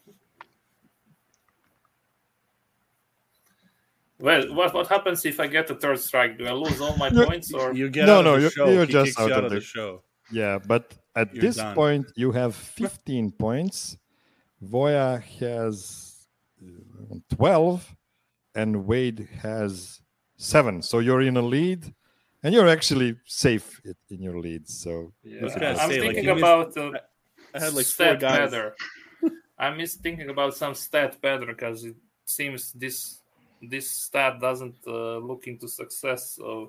Well, what what happens if I get a third strike? Do I lose all my You- points, or You get No, out no, of the you're- show. you're he just kicks out you out of of the, the- show. Yeah, but at You're this done. point, you have fifteen points. Voya has uh, twelve, and Wade has seven. So you're in a lead, and you're actually safe i- in your lead. So yeah. I was gonna I'm say, like, thinking you missed- about uh, I had like four stat guys. better. I'm just thinking about some stat better because it seems this this stat doesn't uh, look into success. So,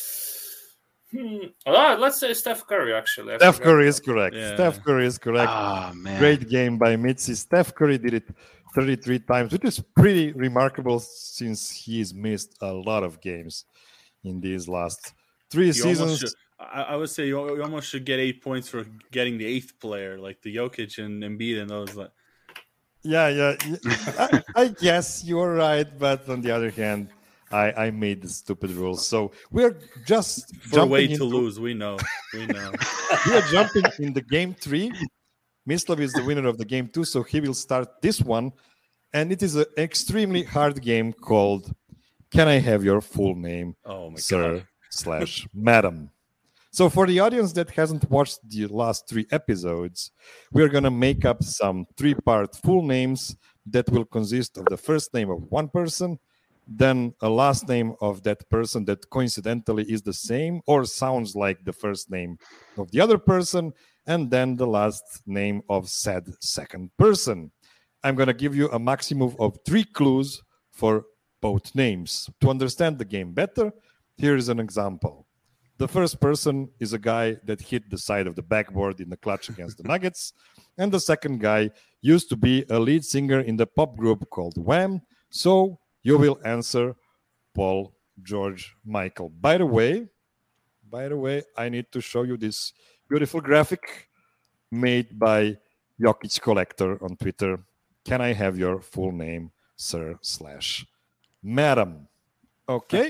hmm. Ah, let's say Steph Curry. Actually, I Steph forgot Curry is about- correct. Yeah. Steph Curry is correct. Ah man. Great game by Mitzi. Steph Curry did it thirty-three times, which is pretty remarkable since he's missed a lot of games in these last three You almost seasons. should, I, I would say you, you almost should get eight points for getting the eighth player, like the Jokic and Embiid and those. Like, Yeah, yeah. yeah. I, I guess you're right, but on the other hand, I, I made the stupid rules. So we're just for jumping way to into, lose, we know. We know. we are jumping in the game three. Mislav is the winner of the game two, so he will start this one. And it is an extremely hard game called Can I Have Your Full Name, Oh my Sir god. slash Madam? So for the audience that hasn't watched the last three episodes, we're going to make up some three-part full names that will consist of the first name of one person, then a last name of that person that coincidentally is the same or sounds like the first name of the other person, and then the last name of said second person. I'm going to give you a maximum of three clues for both names. To understand the game better, here is an example. The first person is a guy that hit the side of the backboard in the clutch against the Nuggets. And the second guy used to be a lead singer in the pop group called Wham. So you will answer Paul, George, Michael. By the way, by the way, I need to show you this beautiful graphic made by Jokic Collector on Twitter. Can I have your full name, sir slash madam? Okay.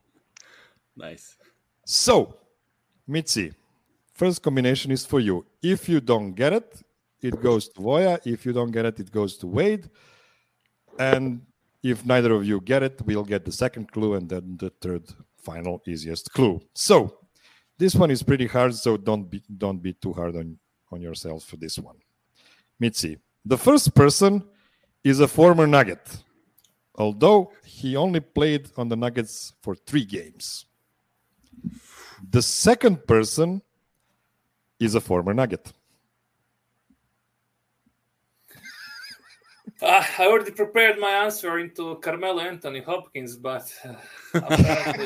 Nice. So, Mitzi, first combination is for you. If you don't get it, it goes to Voya. If you don't get it, it goes to Wade. And if neither of you get it, we'll get the second clue and then the third, final, easiest clue. So, this one is pretty hard, so don't be don't be too hard on, on yourself for this one. Mitzi, the first person is a former Nugget, although he only played on the Nuggets for three games. The second person is a former Nugget. Ah, I already prepared my answer into Carmelo Anthony Hopkins, but uh, apparently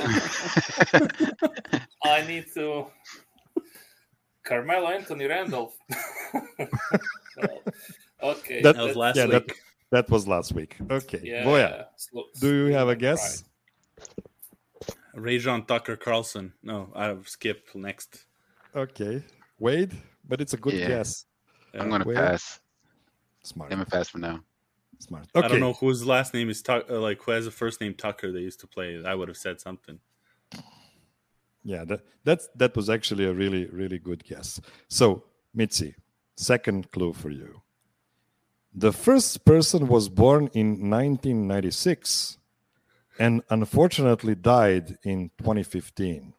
I need to Carmelo Anthony Randolph. Well, okay, That- That was that's- last yeah, week. that, that was last week. Okay. yeah, Voya, slow- do you have a right. guess? Rajon Tucker Carlson. No, I skip next. Okay. Wade, but it's a good Yeah. guess. I'm gonna Wade? pass. Smart. I'm gonna pass for now. Smart. Okay. I don't know whose last name is Tuck, uh, like who has the first name Tucker. They used to play. I would have said something. Yeah, that that's that was actually a really really good guess. So, Mitzi, second clue for you. The first person was born in nineteen ninety-six and unfortunately died in twenty fifteen.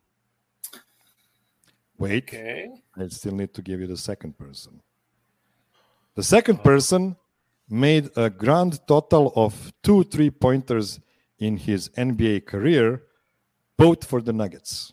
Wait, Okay. I still need to give you the second person. The second person made a grand total of two three-pointers in his N B A career, both for the Nuggets.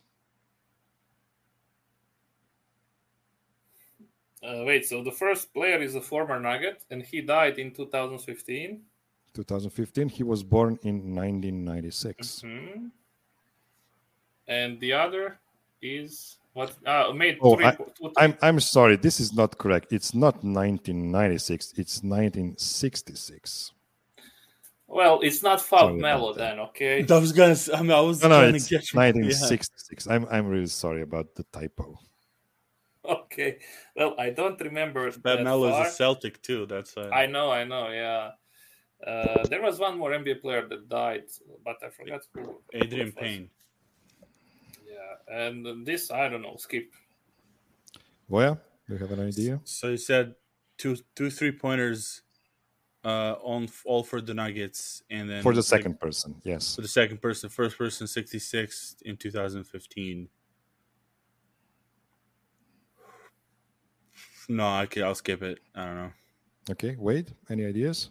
Uh, wait, so the first player is a former Nugget, and he died in two thousand fifteen. twenty fifteen, he was born in nineteen ninety-six. Mm-hmm. And the other is what? Uh, made Oh, three, I, two, three. I'm I'm sorry, this is not correct. It's not nineteen ninety-six, it's nineteen sixty-six. Well, it's not Sorry Fab about Melo that. then, okay? I was gonna. I mean, I was No, no, trying it's to get nineteen sixty-six. I'm I'm really sorry about the typo. Okay. Well, I don't remember. Fab that Melo far. is a Celtic too. That's uh, I know, I know, yeah. Uh, there was one more N B A player that died, but I forgot who. Adrian who it was. Payne. Yeah, and this I don't know. Skip. Voya, do you have an idea? So you said two two three pointers, uh, on all for the Nuggets, and then For the like, second person, yes. for the second person, first person sixty-six in two thousand fifteen. No, okay, I'll skip it. I don't know. Okay, Wade, any ideas?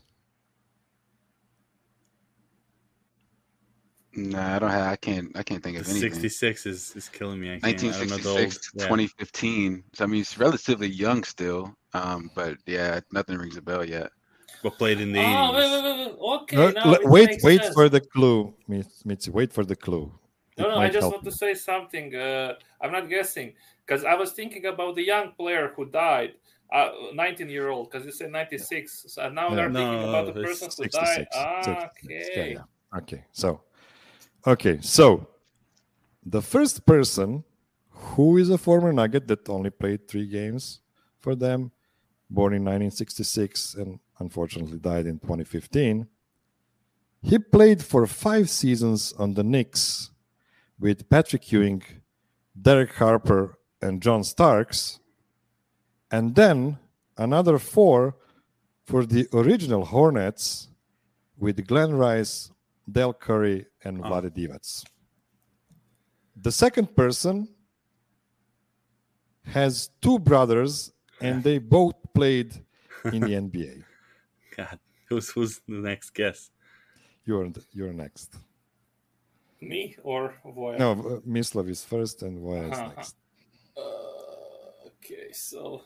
Nah, I don't have. I can't. I can't think of anything. sixty-six is, is killing me. I can't. I don't know the old. nineteen sixty-six, Yeah. twenty fifteen. So I mean, it's relatively young still. Um, but yeah, nothing rings a bell yet. But played in the Oh, wait, eighties. wait, wait, wait. Okay, No, now le- it wait, makes wait sense. for the clue, Mitz- Mitzi. Wait for the clue. No, It no, I might just help want to you. say something. Uh, I'm not guessing because I was thinking about the young player who died, uh, nineteen-year-old, because you said ninety-six. So now Yeah. we're No, thinking about the it's person who died. sixty-six. Ah, sixty-six. Yeah, okay. yeah. Okay, so, okay, so the first person who is a former Nugget that only played three games for them, born in nineteen sixty-six and unfortunately died in twenty fifteen. He played for five seasons on the Knicks with Patrick Ewing, Derek Harper, and John Starks, and then another four for the original Hornets with Glenn Rice, Del Curry, and Oh. Vlade Divac. The second person has two brothers, and they both played in the N B A. God, who's who's the next guess? You're you're next. Me or Voya? No, uh, Mislav is first, and Voya is Uh-huh. next. Uh, okay, so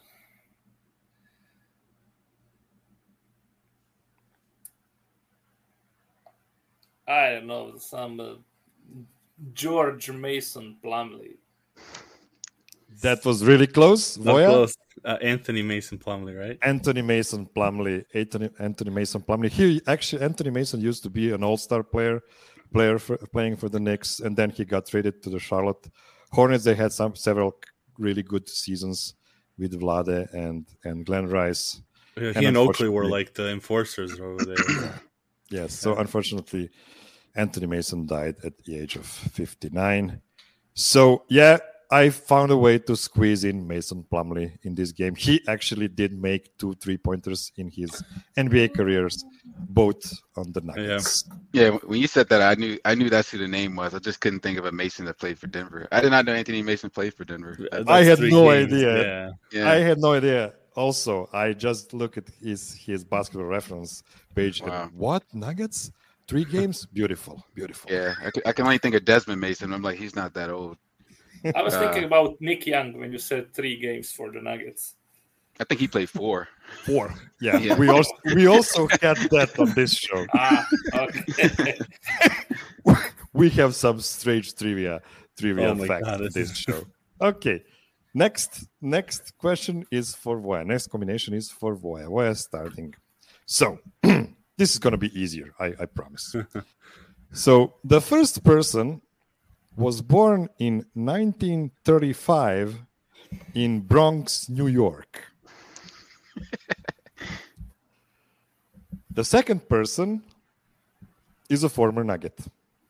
I don't know, some uh, George Mason Plumlee. That was really close. Not Voya? close. Uh, Anthony Mason Plumlee, right? Anthony Mason Plumlee. Anthony, Anthony Mason Plumlee. He actually Anthony Mason used to be an All-Star player, player for, playing for the Knicks, and then he got traded to the Charlotte Hornets. They had some several really good seasons with Vlade and and Glenn Rice. Yeah, And he and Oakley were unfortunately- like the enforcers over there. Yes. So unfortunately, Anthony Mason died at the age of fifty-nine. So yeah, I found a way to squeeze in Mason Plumlee in this game. He actually did make two three-pointers in his N B A careers, both on the Nuggets. Yeah, when you said that, I knew I knew that's who the name was. I just couldn't think of a Mason that played for Denver. I did not know Anthony Mason played for Denver. That's I had three no games, idea. Yeah. Yeah, I had no idea. Also, I just look at his his basketball reference page. Wow. And what Nuggets? Three games? Beautiful, beautiful. yeah. I, c- I can only think of Desmond Mason. I'm like, he's not that old. I was Uh, thinking about Nick Young when you said three games for the Nuggets. I think he played four. Four. Yeah, Yeah. we also we also had that on this show. Ah, okay. We have some strange trivia trivia Oh my facts God, on this this is- show. Okay. Next next question is for Voya. Next combination is for Voya. Voya starting. So this is gonna be easier, I, I promise. So the first person was born in nineteen thirty-five in Bronx, New York. The second person is a former Nugget.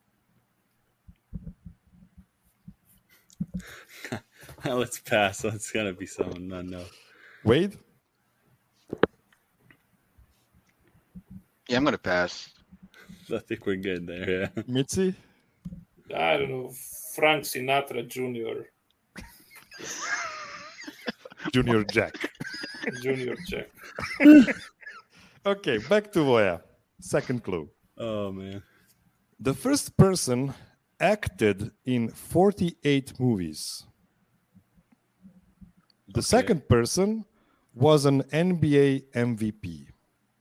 Let's pass. That's gonna be someone I know. Wade? Yeah, I'm gonna pass. I think we're good there. Yeah. Mitzi? I don't know, Frank Sinatra Junior Junior Jack. Junior Jack. Okay, back to Voya. Second clue. Oh man. The first person acted in forty-eight movies. The Okay. second person was an N B A M V P.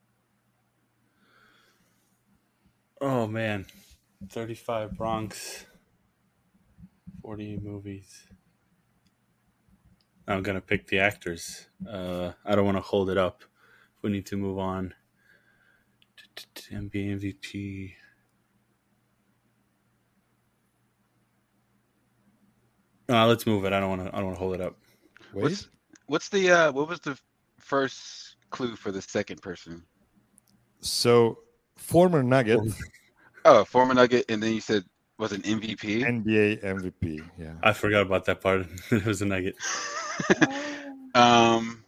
Oh man. thirty-five Bronx. forty movies. I'm gonna pick the actors. Uh, I don't want to hold it up. We need to move on. N B A M V P. Uh, let's move it. I don't want to. I don't want to hold it up. Wade? What's what's the uh what was the first clue for the second person? So, former Nugget, Oh, former Nugget, and then you said was an M V P. N B A M V P. Yeah. I forgot about that part. It was a nugget. um,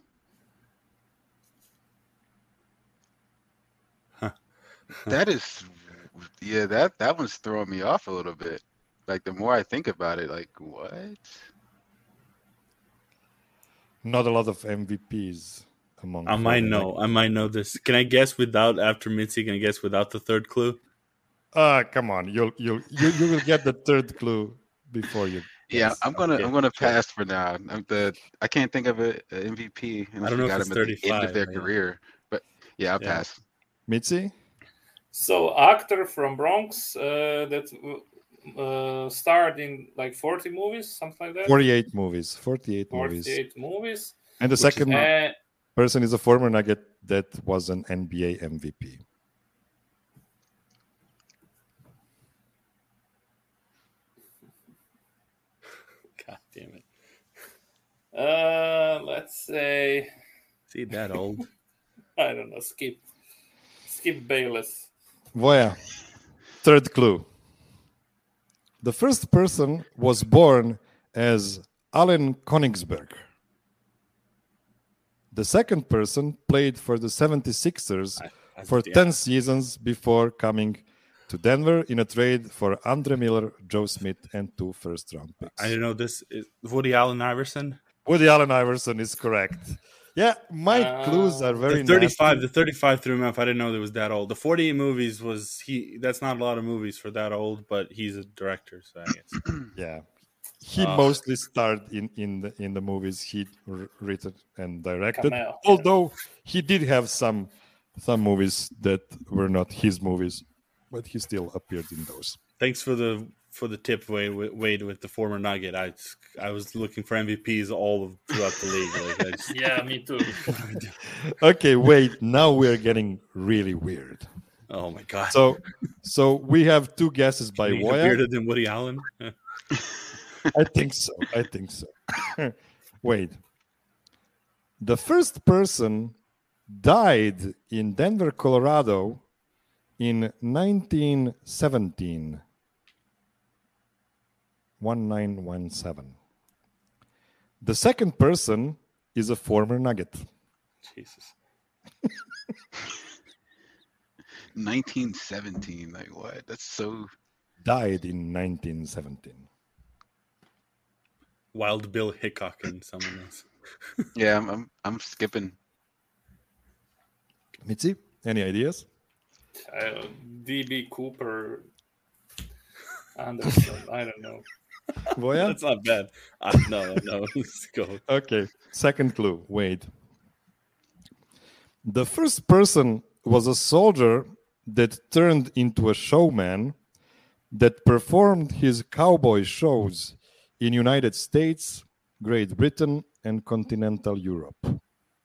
Huh. that is, yeah, that that one's throwing me off a little bit. Like the more I think about it, like what? Not a lot of M V Ps among. I might former know. Nuggets. I might know this. Can I guess without after Mitzi? Can I guess without the third clue? Ah, come on. You'll you'll you, you will get the third clue before you. Yeah, guess. I'm gonna Okay, I'm gonna sure. pass for now. I'm the I can't think of a, a M V P unless don't you know if got it's him at the end of thirty-five, their yeah. career. But yeah, I'll Yeah. pass. Mitzi? So, actor from Bronx uh, that uh, starred in like forty movies, something like that. forty-eight movies. forty-eight movies. forty-eight movies. And the Which is second not- Uh, person is a former Nugget that was an N B A M V P. God damn it! uh, let's say, Is he that old? I don't know, Skip. Skip Bayless. Voya. Third clue. The first person was born as Allen Konigsberg. The second person played for the seventy-sixers I- for yeah. ten seasons before coming to Denver in a trade for Andre Miller, Joe Smith, and two first round picks. I didn't know this. Is Woody Allen Iverson. Woody Allen Iverson is correct. Yeah, my Uh, clues are very The thirty-five. nasty. The thirty-five threw me off. I didn't know it was that old. The forty-eight movies was he. That's not a lot of movies for that old, but he's a director, so I guess. Yeah, he Ah. mostly starred in in the in the movies he r- written and directed. Cameo, yeah. Although he did have some some movies that were not his movies, but he still appeared in those. Thanks for the for the tip, Wade. Wade with the former Nugget. I I was looking for M V Ps all of, throughout the league. Like, I just, Yeah, me too. Okay, wait. Now we're getting really weird. oh my god! So, so we have two guesses by Being Voya. bearded than Woody Allen. I think so. I think so. Wait. The first person died in Denver, Colorado in nineteen seventeen. nineteen seventeen. The second person is a former Nugget. Jesus. nineteen seventeen, like what? That's so. Died in nineteen seventeen. Wild Bill Hickok and someone else. Yeah, I'm I'm, I'm skipping. Mitzi, any ideas? Uh, D B Cooper. Anderson. I don't know. Voya? That's not bad. Uh, no, no. Let's go. Okay, second clue. Wait. The first person was a soldier that turned into a showman that performed his cowboy shows in United States, Great Britain, and continental Europe.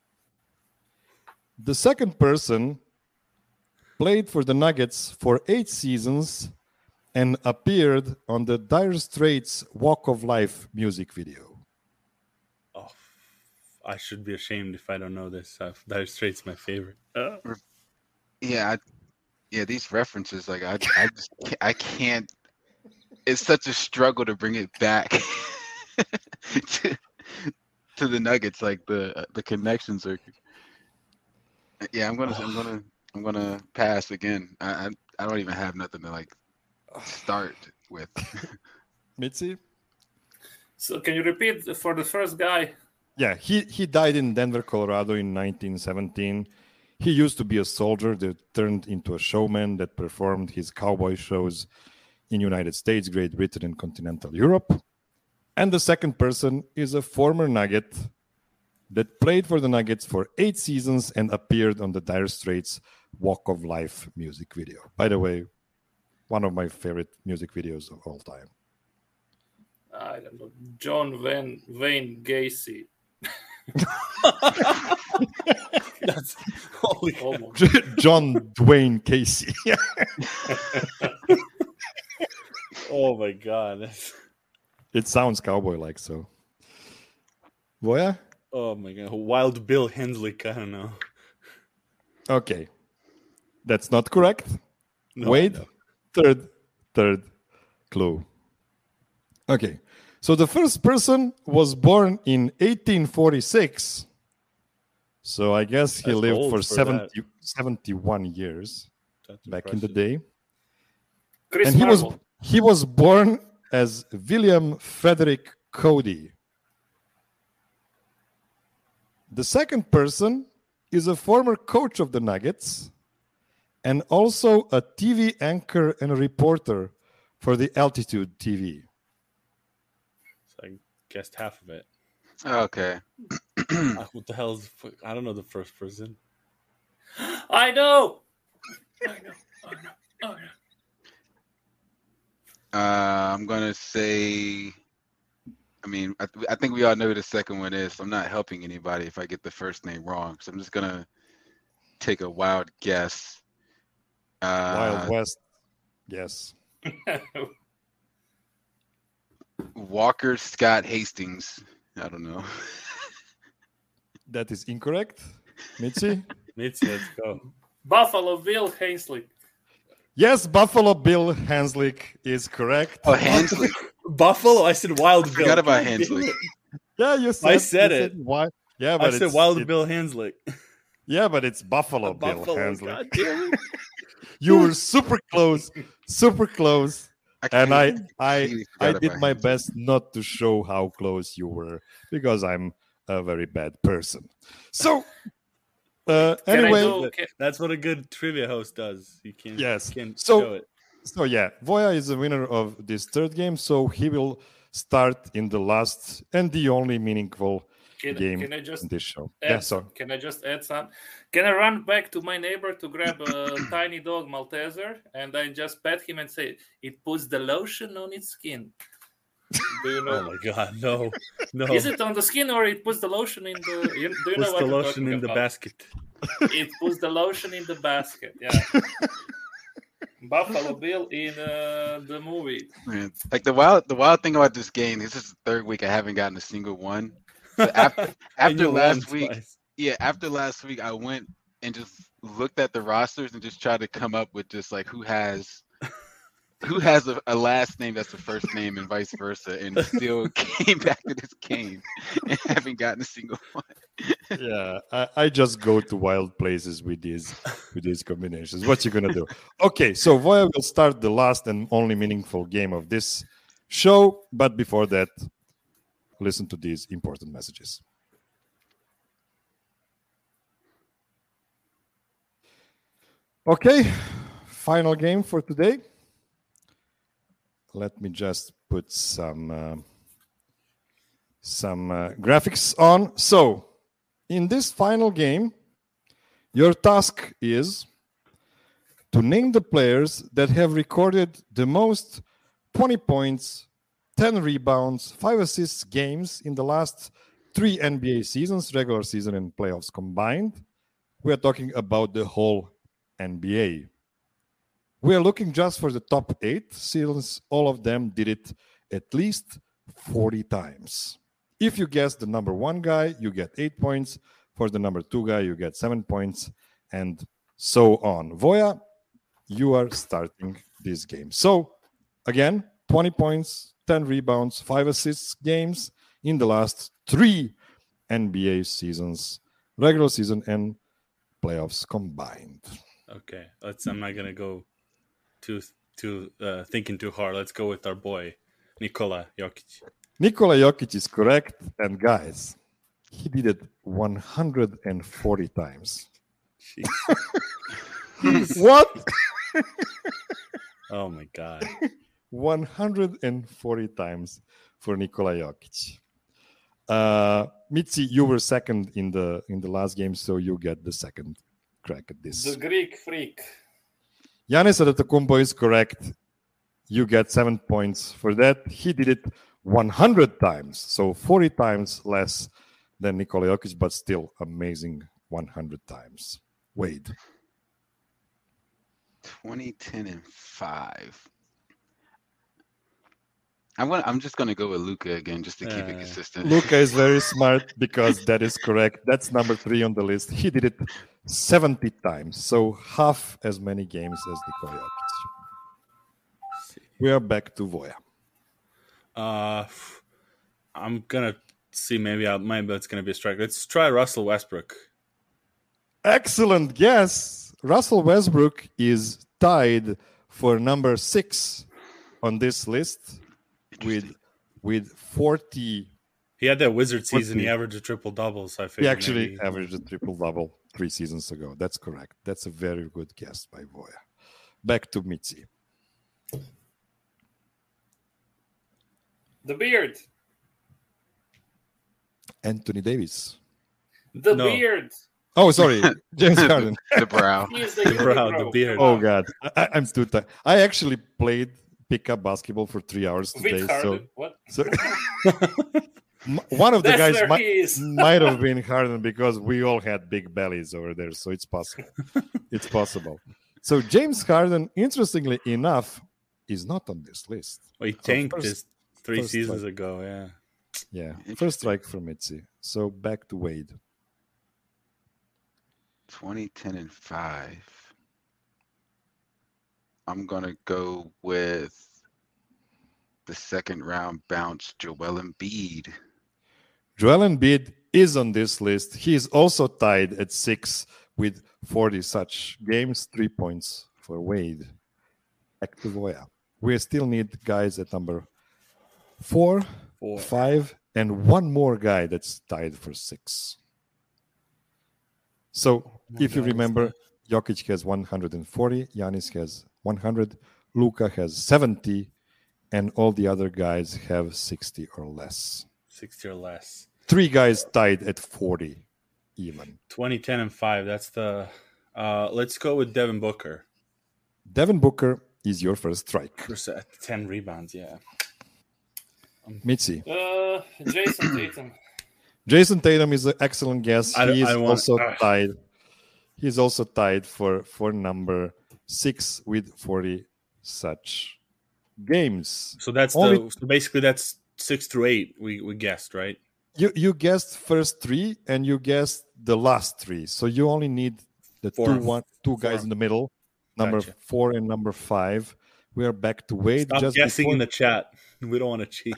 The second person played for the Nuggets for eight seasons and appeared on the Dire Straits Walk of Life music video. Oh, I should be ashamed if I don't know this. Uh, Dire Straits my favorite. Uh. Yeah, I, yeah. These references, like I, I just, can't, I can't. It's such a struggle to bring it back to, to the Nuggets. Like the the connections are. Yeah, I'm gonna, I'm gonna, I'm gonna pass again. I, I, I don't even have nothing to like start with. Mitzi? So can you repeat for the first guy? Yeah, he, he died in Denver, Colorado in nineteen seventeen. He used to be a soldier that turned into a showman that performed his cowboy shows in United States, Great Britain, and continental Europe. And the second person is a former Nugget that played for the Nuggets for eight seasons and appeared on the Dire Straits Walk of Life music video. By the way, one of my favorite music videos of all time. I don't know. John Wayne, Wayne Gacy. That's holy. Almost. John Dwayne Casey. Oh my god. That's... It sounds cowboy-like, so. Voya? Oh my god. Wild Bill Henslick. I don't know. Okay. That's not correct. No, Wait. no. Third, third clue. Okay. So the first person was born in eighteen forty-six. So I guess he That's lived old for, for seventy, seventy-one years That's back in the impressive. day. Chris And he was Marvel. he was born as William Frederick Cody. The second person is a former coach of the Nuggets and also a T V anchor and a reporter for the Altitude T V. So I guessed half of it. Okay. Uh, what the hell is? I don't know the first person. I know. I know. I know. I know. Uh, I'm gonna say. I mean, I, I think we all know who the second one is. So I'm not helping anybody if I get the first name wrong. So I'm just gonna take a wild guess. Uh, Wild West. Yes. Walker Scott Hastings. I don't know. That is incorrect. Mitzi? Mitzi, let's go. Buffalo Bill Henslick. Yes, Buffalo Bill Hanslick is correct. Oh, Hensley. Buffalo. I said Wild I Bill. forgot about Hensley. Yeah, you said I said you it. why? Yeah, I but said it's, Wild it- Bill Henslick. Yeah, but it's Buffalo Bill Buffalo. Hanslick. God damn it. You were super close, super close, and I, I, completely I forgot did about my Hanslick. best not to show how close you were because I'm a very bad person. So, uh, Can I anyway, do- can- That's what a good trivia host does. You can't. Yes. Can't So- show it. so yeah, Voya is the winner of this third game, so he will start in the last and the only meaningful Can, game can I just in this show. add Yeah, some- so Can I just add some? Can I run back to my neighbor to grab a tiny dog Malteser and I just pet him and say it puts the lotion on its skin? Do you Oh know? my god, no, no. Is it on the skin or it puts the lotion in the? You, do you Puts know what the I'm lotion talking in the about? basket. It puts the lotion in the basket. Yeah. Buffalo Bill in uh, the movie. Man, like the wild, the wild thing about this game. This is the third week I haven't gotten a single one. So after And after you won last week, twice. yeah, after last week, I went and just looked at the rosters and just tried to come up with just like who has who has a, a last name that's the first name and vice versa, and still came back to this game and haven't gotten a single one. yeah, I, I just go to wild places with these with these combinations. What you gonna do? Okay, so Voya will start the last and only meaningful game of this show, but before that, listen to these important messages. Okay, final game for today. Let me just put some uh, some uh, graphics on. So, in this final game, your task is to name the players that have recorded the most twenty points, ten rebounds, five assists games in the last three N B A seasons, regular season and playoffs combined. We are talking about the whole N B A. We are looking just for the top eight, since all of them did it at least forty times. If you guess the number one guy, you get eight points. For the number two guy, you get seven points, and so on. Voya, you are starting this game. So, again, twenty points, ten rebounds, five assists games in the last three N B A seasons, regular season and playoffs combined. Okay, let's. I'm not gonna go too too uh, thinking too hard. Let's go with our boy Nikola Jokic. Nikola Jokic is correct, and guys, he did it one hundred forty times. What? Oh my god! one hundred forty times for Nikola Jokic. Uh, Mitzi, you were second in the in the last game, so you get the second crack at this. The Greek freak. Giannis Antetokounmpo is correct. You get seven points for that. He did it one hundred times, so forty times less than Nikola Jokic, but still amazing one hundred times. Wade. twenty, ten, and five. I'm gonna. I'm just gonna go with Luka again, just to keep Uh, it consistent. Luka is very smart because that is correct. That's number three on the list. He did it seventy times, so half as many games as Nikola Jokic. We are back to Voya. Uh, I'm gonna see. Maybe I maybe that's gonna be a strike. Let's try Russell Westbrook. Excellent guess. Russell Westbrook is tied for number six on this list with with forty. He had that Wizard season. He forty. averaged a triple double. So I He figured actually maybe... averaged a triple double three seasons ago. That's correct. That's a very good guess by Voya. Back to Mitzi. The beard. Anthony Davis. The No. beard. Oh, sorry, James Harden. The brow. He is the, The brow, unibrow. the beard. Oh God, I, I'm too tired. I actually played pickup basketball for three hours today. With So, Harden. What? so m- one of the That's guys where might, he is. might have been Harden because we all had big bellies over there. So it's possible. It's possible. So James Harden, interestingly enough, is not on this list. Well, he So tanked first- his three first seasons strike. ago. Yeah. Yeah, first Interesting. strike for Mitzi. So back to Wade. twenty, ten, and five. I'm gonna go with the second round bounce, Joel Embiid. Joel Embiid is on this list. He is also tied at six with forty such games, three points for Wade. Back to Voya. We still need guys at number four, Four. five, and one more guy that's tied for six. So if you guys remember, Jokic has one hundred forty, Giannis has one hundred, Luka has seventy, and all the other guys have sixty or less. Sixty or less. Three guys tied at forty even. twenty, ten, and five. That's the. Uh, let's go with Devin Booker. Devin Booker is your first strike. Percent- ten rebounds. Yeah. Mitzi. Uh, Jason Tatum. Jason Tatum is an excellent guess. I don't- He is I want- also ah. tied. He's also tied for, for number six with forty such games. So that's Only- the. So basically, that's six through eight. We we guessed, right? You you guessed first three and you guessed the last three. So you only need the Four. two one two guys Four. in the middle, number Gotcha. four and number five. We are back to Wade. Stop just guessing before- in the chat. We don't want to cheat.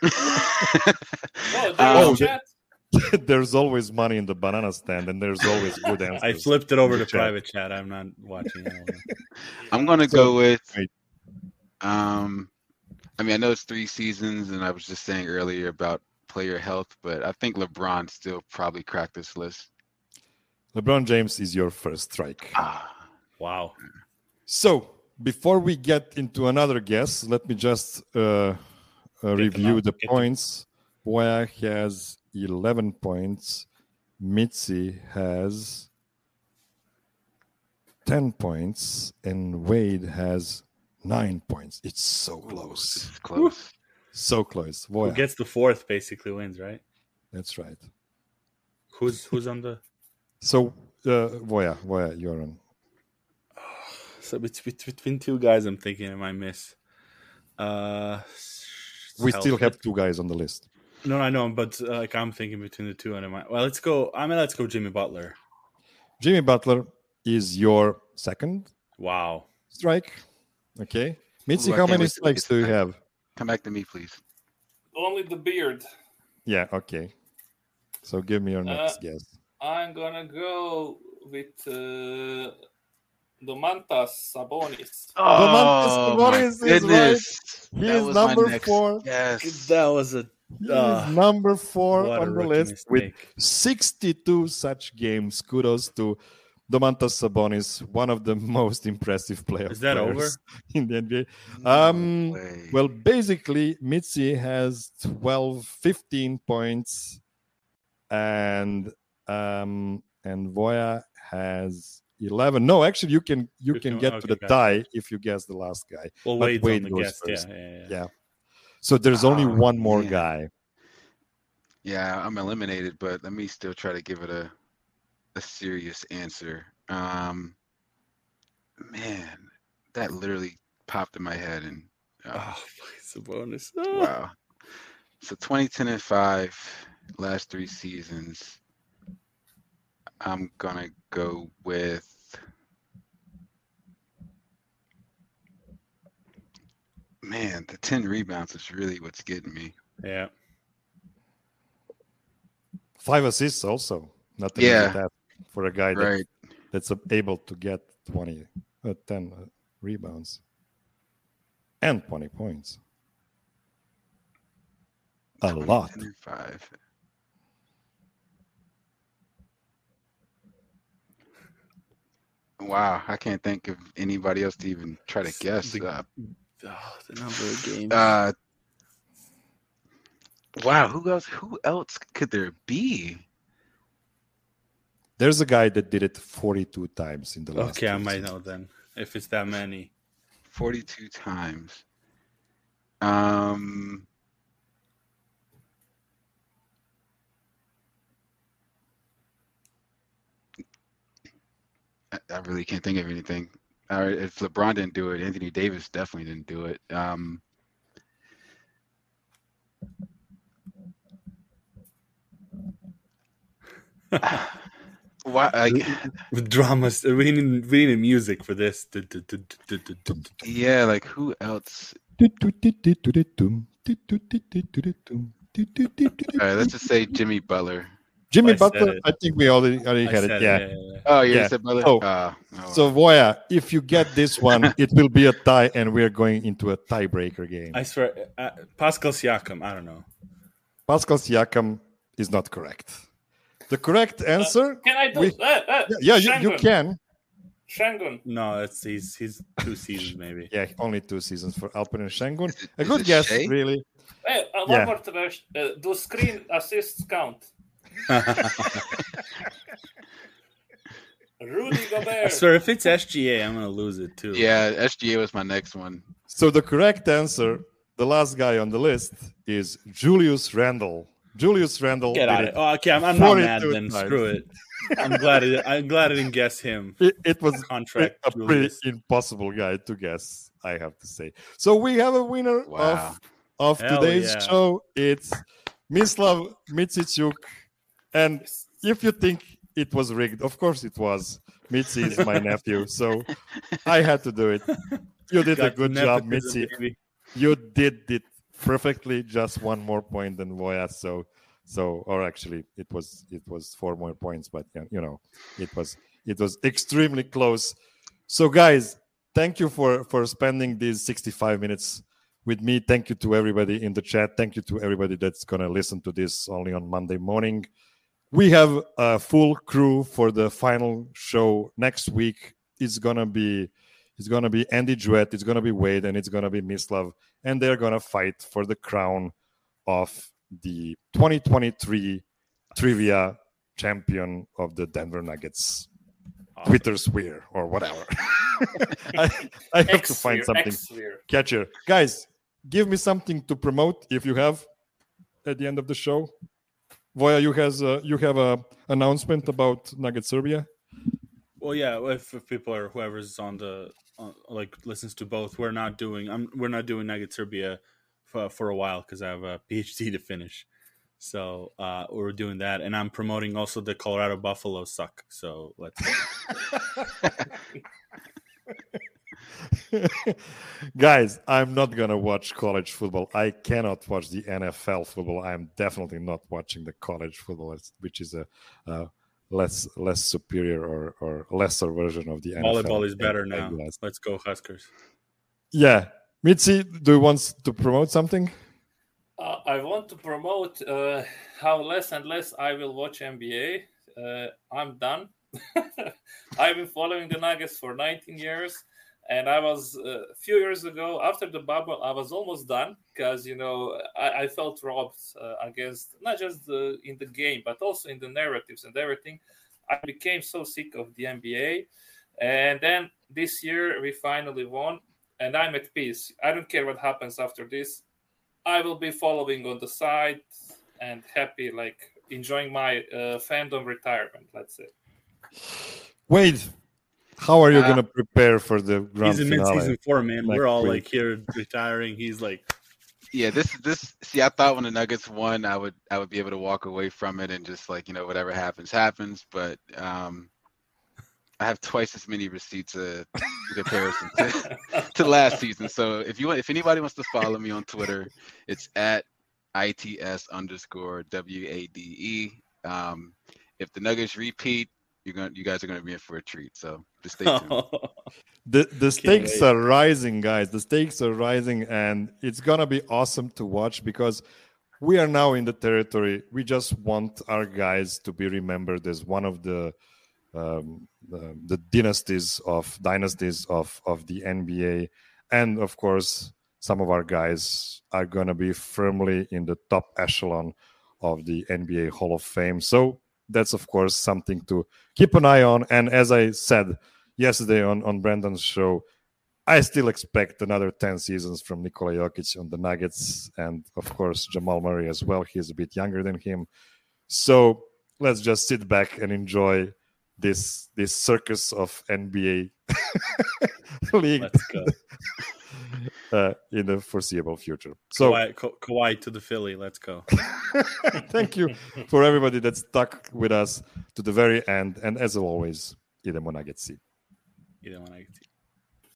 Oh, Um, there's chat. There's always money in the banana stand, and there's always good answers. I flipped it over in to the chat. private chat. I'm not watching. I don't know. I'm gonna So- go with. Wait. Um, I mean, I know it's three seasons, and I was just saying earlier about player health, but I think LeBron still probably cracked this list. LeBron James is your first strike. Ah, Wow. So before we get into another guess, let me just uh, uh, review out, the get them. points. Boya has eleven points. Mitzi has ten points, and Wade has nine points. It's so this close, is close. so close. Who Boya, gets the fourth basically wins, right? that's right. Who's who's on the? So uh, Voya, Voya, you're on. So bet- bet- between two guys, I'm thinking I might miss. Uh, We still Celtics. have two guys on the list. No, I know, but uh, like I'm thinking between the two, and I'm like, well, let's go. I mean, let's go, Jimmy Butler. Jimmy Butler is your second Wow. strike. Okay, Mitzi, Ooh, I how can't many wait to strikes get do you strike. have? Come back to me, please. Only the beard. Yeah. Okay. So give me your next Uh, guess. I'm gonna go with uh, Domantas Sabonis. Domantas Oh Sabonis my is right. goodness! He That is was my number next four. Yes. That was a He uh, is number four what a on the rookie list with mistake. sixty-two such games. Kudos to Domantas Sabonis, one of the most impressive player Is that players over? in the N B A. No Um, way. well, basically, Mitzi has twelve, fifteen points, and um, and Voya has eleven. No, actually, you can you You can can- get to okay, the gotcha. tie if you guess the last guy. Well, But Wade's Wade on the goes guest. first. Yeah, yeah, yeah. Yeah. So there's only Oh, one more man. guy. Yeah, I'm eliminated, but let me still try to give it a a serious answer. Um, man, that literally popped in my head, and uh, Oh, it's a bonus. Oh. wow. So twenty ten and five, last three seasons. I'm gonna go with. Man, the ten rebounds is really what's getting me. Yeah. Five assists also. Not an Yeah. easy task for a guy that, Right. that's able to get twenty, uh, ten uh, rebounds and twenty points. A twenty, lot. ten, and five. Wow, I can't think of anybody else to even try to guess. The- Uh, Oh, the number of games. uh, wow, who else? Who else could there be? There's a guy that did it forty-two times in the last okay, I two might seasons. know then if it's that many. Forty-two times. Um. I, I really can't think of anything. All right, if LeBron didn't do it, Anthony Davis definitely didn't do it. Um, why? Like, With dramas, we need we need music for this. yeah, like who else? All right, let's just say Jimmy Butler. Jimmy I said Butler, it. I think we already, already I had said it. it, Yeah. yeah, yeah, yeah. Oh, yeah, Yeah. you said Butler. So- Ah, oh, So Voya, if you get this one, it will be a tie, and we're going into a tiebreaker game. I swear, uh, Pascal Siakam. I don't know. Pascal Siakam is not correct. The correct answer, Can I do? We- uh, uh, yeah, you, you Shangun. can. Shangun. No, it's he's he's two seasons maybe. Yeah, only two seasons for Alperen Şengün. Is it- A is good it guess, Shea? really. Hey, uh, one Yeah. more trash. Uh, do screen assists count? Rudy I Gobert. swear, if it's S G A, I'm gonna lose it too. yeah, S G A was my next one. So the correct answer, the last guy on the list, is Julius Randle. Julius Randle. Get did out of it. it. Oh, okay, I'm, I'm not mad forty-two then. times. Screw it. I'm glad. It, I'm glad I didn't guess him. It, it was Contract. a pretty Julius. impossible guy to guess, I have to say. So we have a winner Wow. of, of Hell today's yeah. show. It's Mislav Micichuk. And if you think it was rigged, of course it was. Mitzi is my nephew, so I had to do it. You did a Got good job, nepotism, Mitzi. baby. You did it perfectly. Just one more point than Voya. So, so, or actually, it was it was four more points, but yeah, you know, it was it was extremely close. So, guys, thank you for for spending these sixty-five minutes with me. Thank you to everybody in the chat. Thank you to everybody that's gonna listen to this only on Monday morning. We have a full crew for the final show next week. It's gonna be it's gonna be Andy Jewett, it's gonna be Wade, and it's gonna be Mislav, and they're gonna fight for the crown of the twenty twenty-three trivia champion of the Denver Nuggets. Awesome. Twitter sphere or whatever. I, I have to find X-Sphere, something X-Sphere. catchier. Guys, give me something to promote if you have at the end of the show. Voya, you has uh, you have a announcement about Nugget Serbia. Well, yeah. If, if people are whoever's on the on, like listens to both, we're not doing. I'm we're not doing Nugget Serbia for, for a while because I have a PhD to finish. So uh, we're doing that, and I'm promoting also the Colorado Buffaloes suck. So let's. Guys, I'm not gonna watch college football. I cannot watch the N F L football. I'm definitely not watching the college football, which is a uh, less less superior or, or lesser version of the N F L. Volleyball is better now. Let's go Huskers. Yeah, Mitzi, do you want to promote something? Uh, I want to promote uh, how less and less I will watch N B A. Uh, I'm done. I've been following the Nuggets for nineteen years. And I was uh, a few years ago, after the bubble, I was almost done because, you know, I, I felt robbed uh, against not just the, in the game, but also in the narratives and everything. I became so sick of the N B A. And then this year we finally won, and I'm at peace. I don't care what happens after this. I will be following on the side and happy, like enjoying my uh, fandom retirement, let's say. Wait. How are you Uh, going to prepare for the grand He's in finale? mid-season four, man. Next We're all week. like here retiring. He's like, Yeah, this this see, I thought when the Nuggets won, I would I would be able to walk away from it and just like, you know, whatever happens, happens. But um I have twice as many receipts uh, in comparison to, to last season. So if you want, if anybody wants to follow me on Twitter, it's at I T S underscore W A D E. Um, if the Nuggets repeat, you're going you guys are gonna be in for a treat. So just stay tuned. The the stakes wait. are rising, guys. The stakes are rising, and it's gonna be awesome to watch because we are now in the territory. We just want our guys to be remembered as one of the um, the, the dynasties of dynasties of of the N B A, and of course, some of our guys are gonna be firmly in the top echelon of the N B A Hall of Fame. So that's of course something to keep an eye on. And as I said yesterday on, on Brandon's show, I still expect another ten seasons from Nikola Jokic on the Nuggets, and of course Jamal Murray as well. He's a bit younger than him. So let's just sit back and enjoy this this circus of N B A league let's go. uh, in the foreseeable future. So Kawhi, Ka- Kawhi to the Philly. Let's go. thank you for everybody that stuck with us to the very end. And as always, idemo Nuggets. Idemo Nuggets.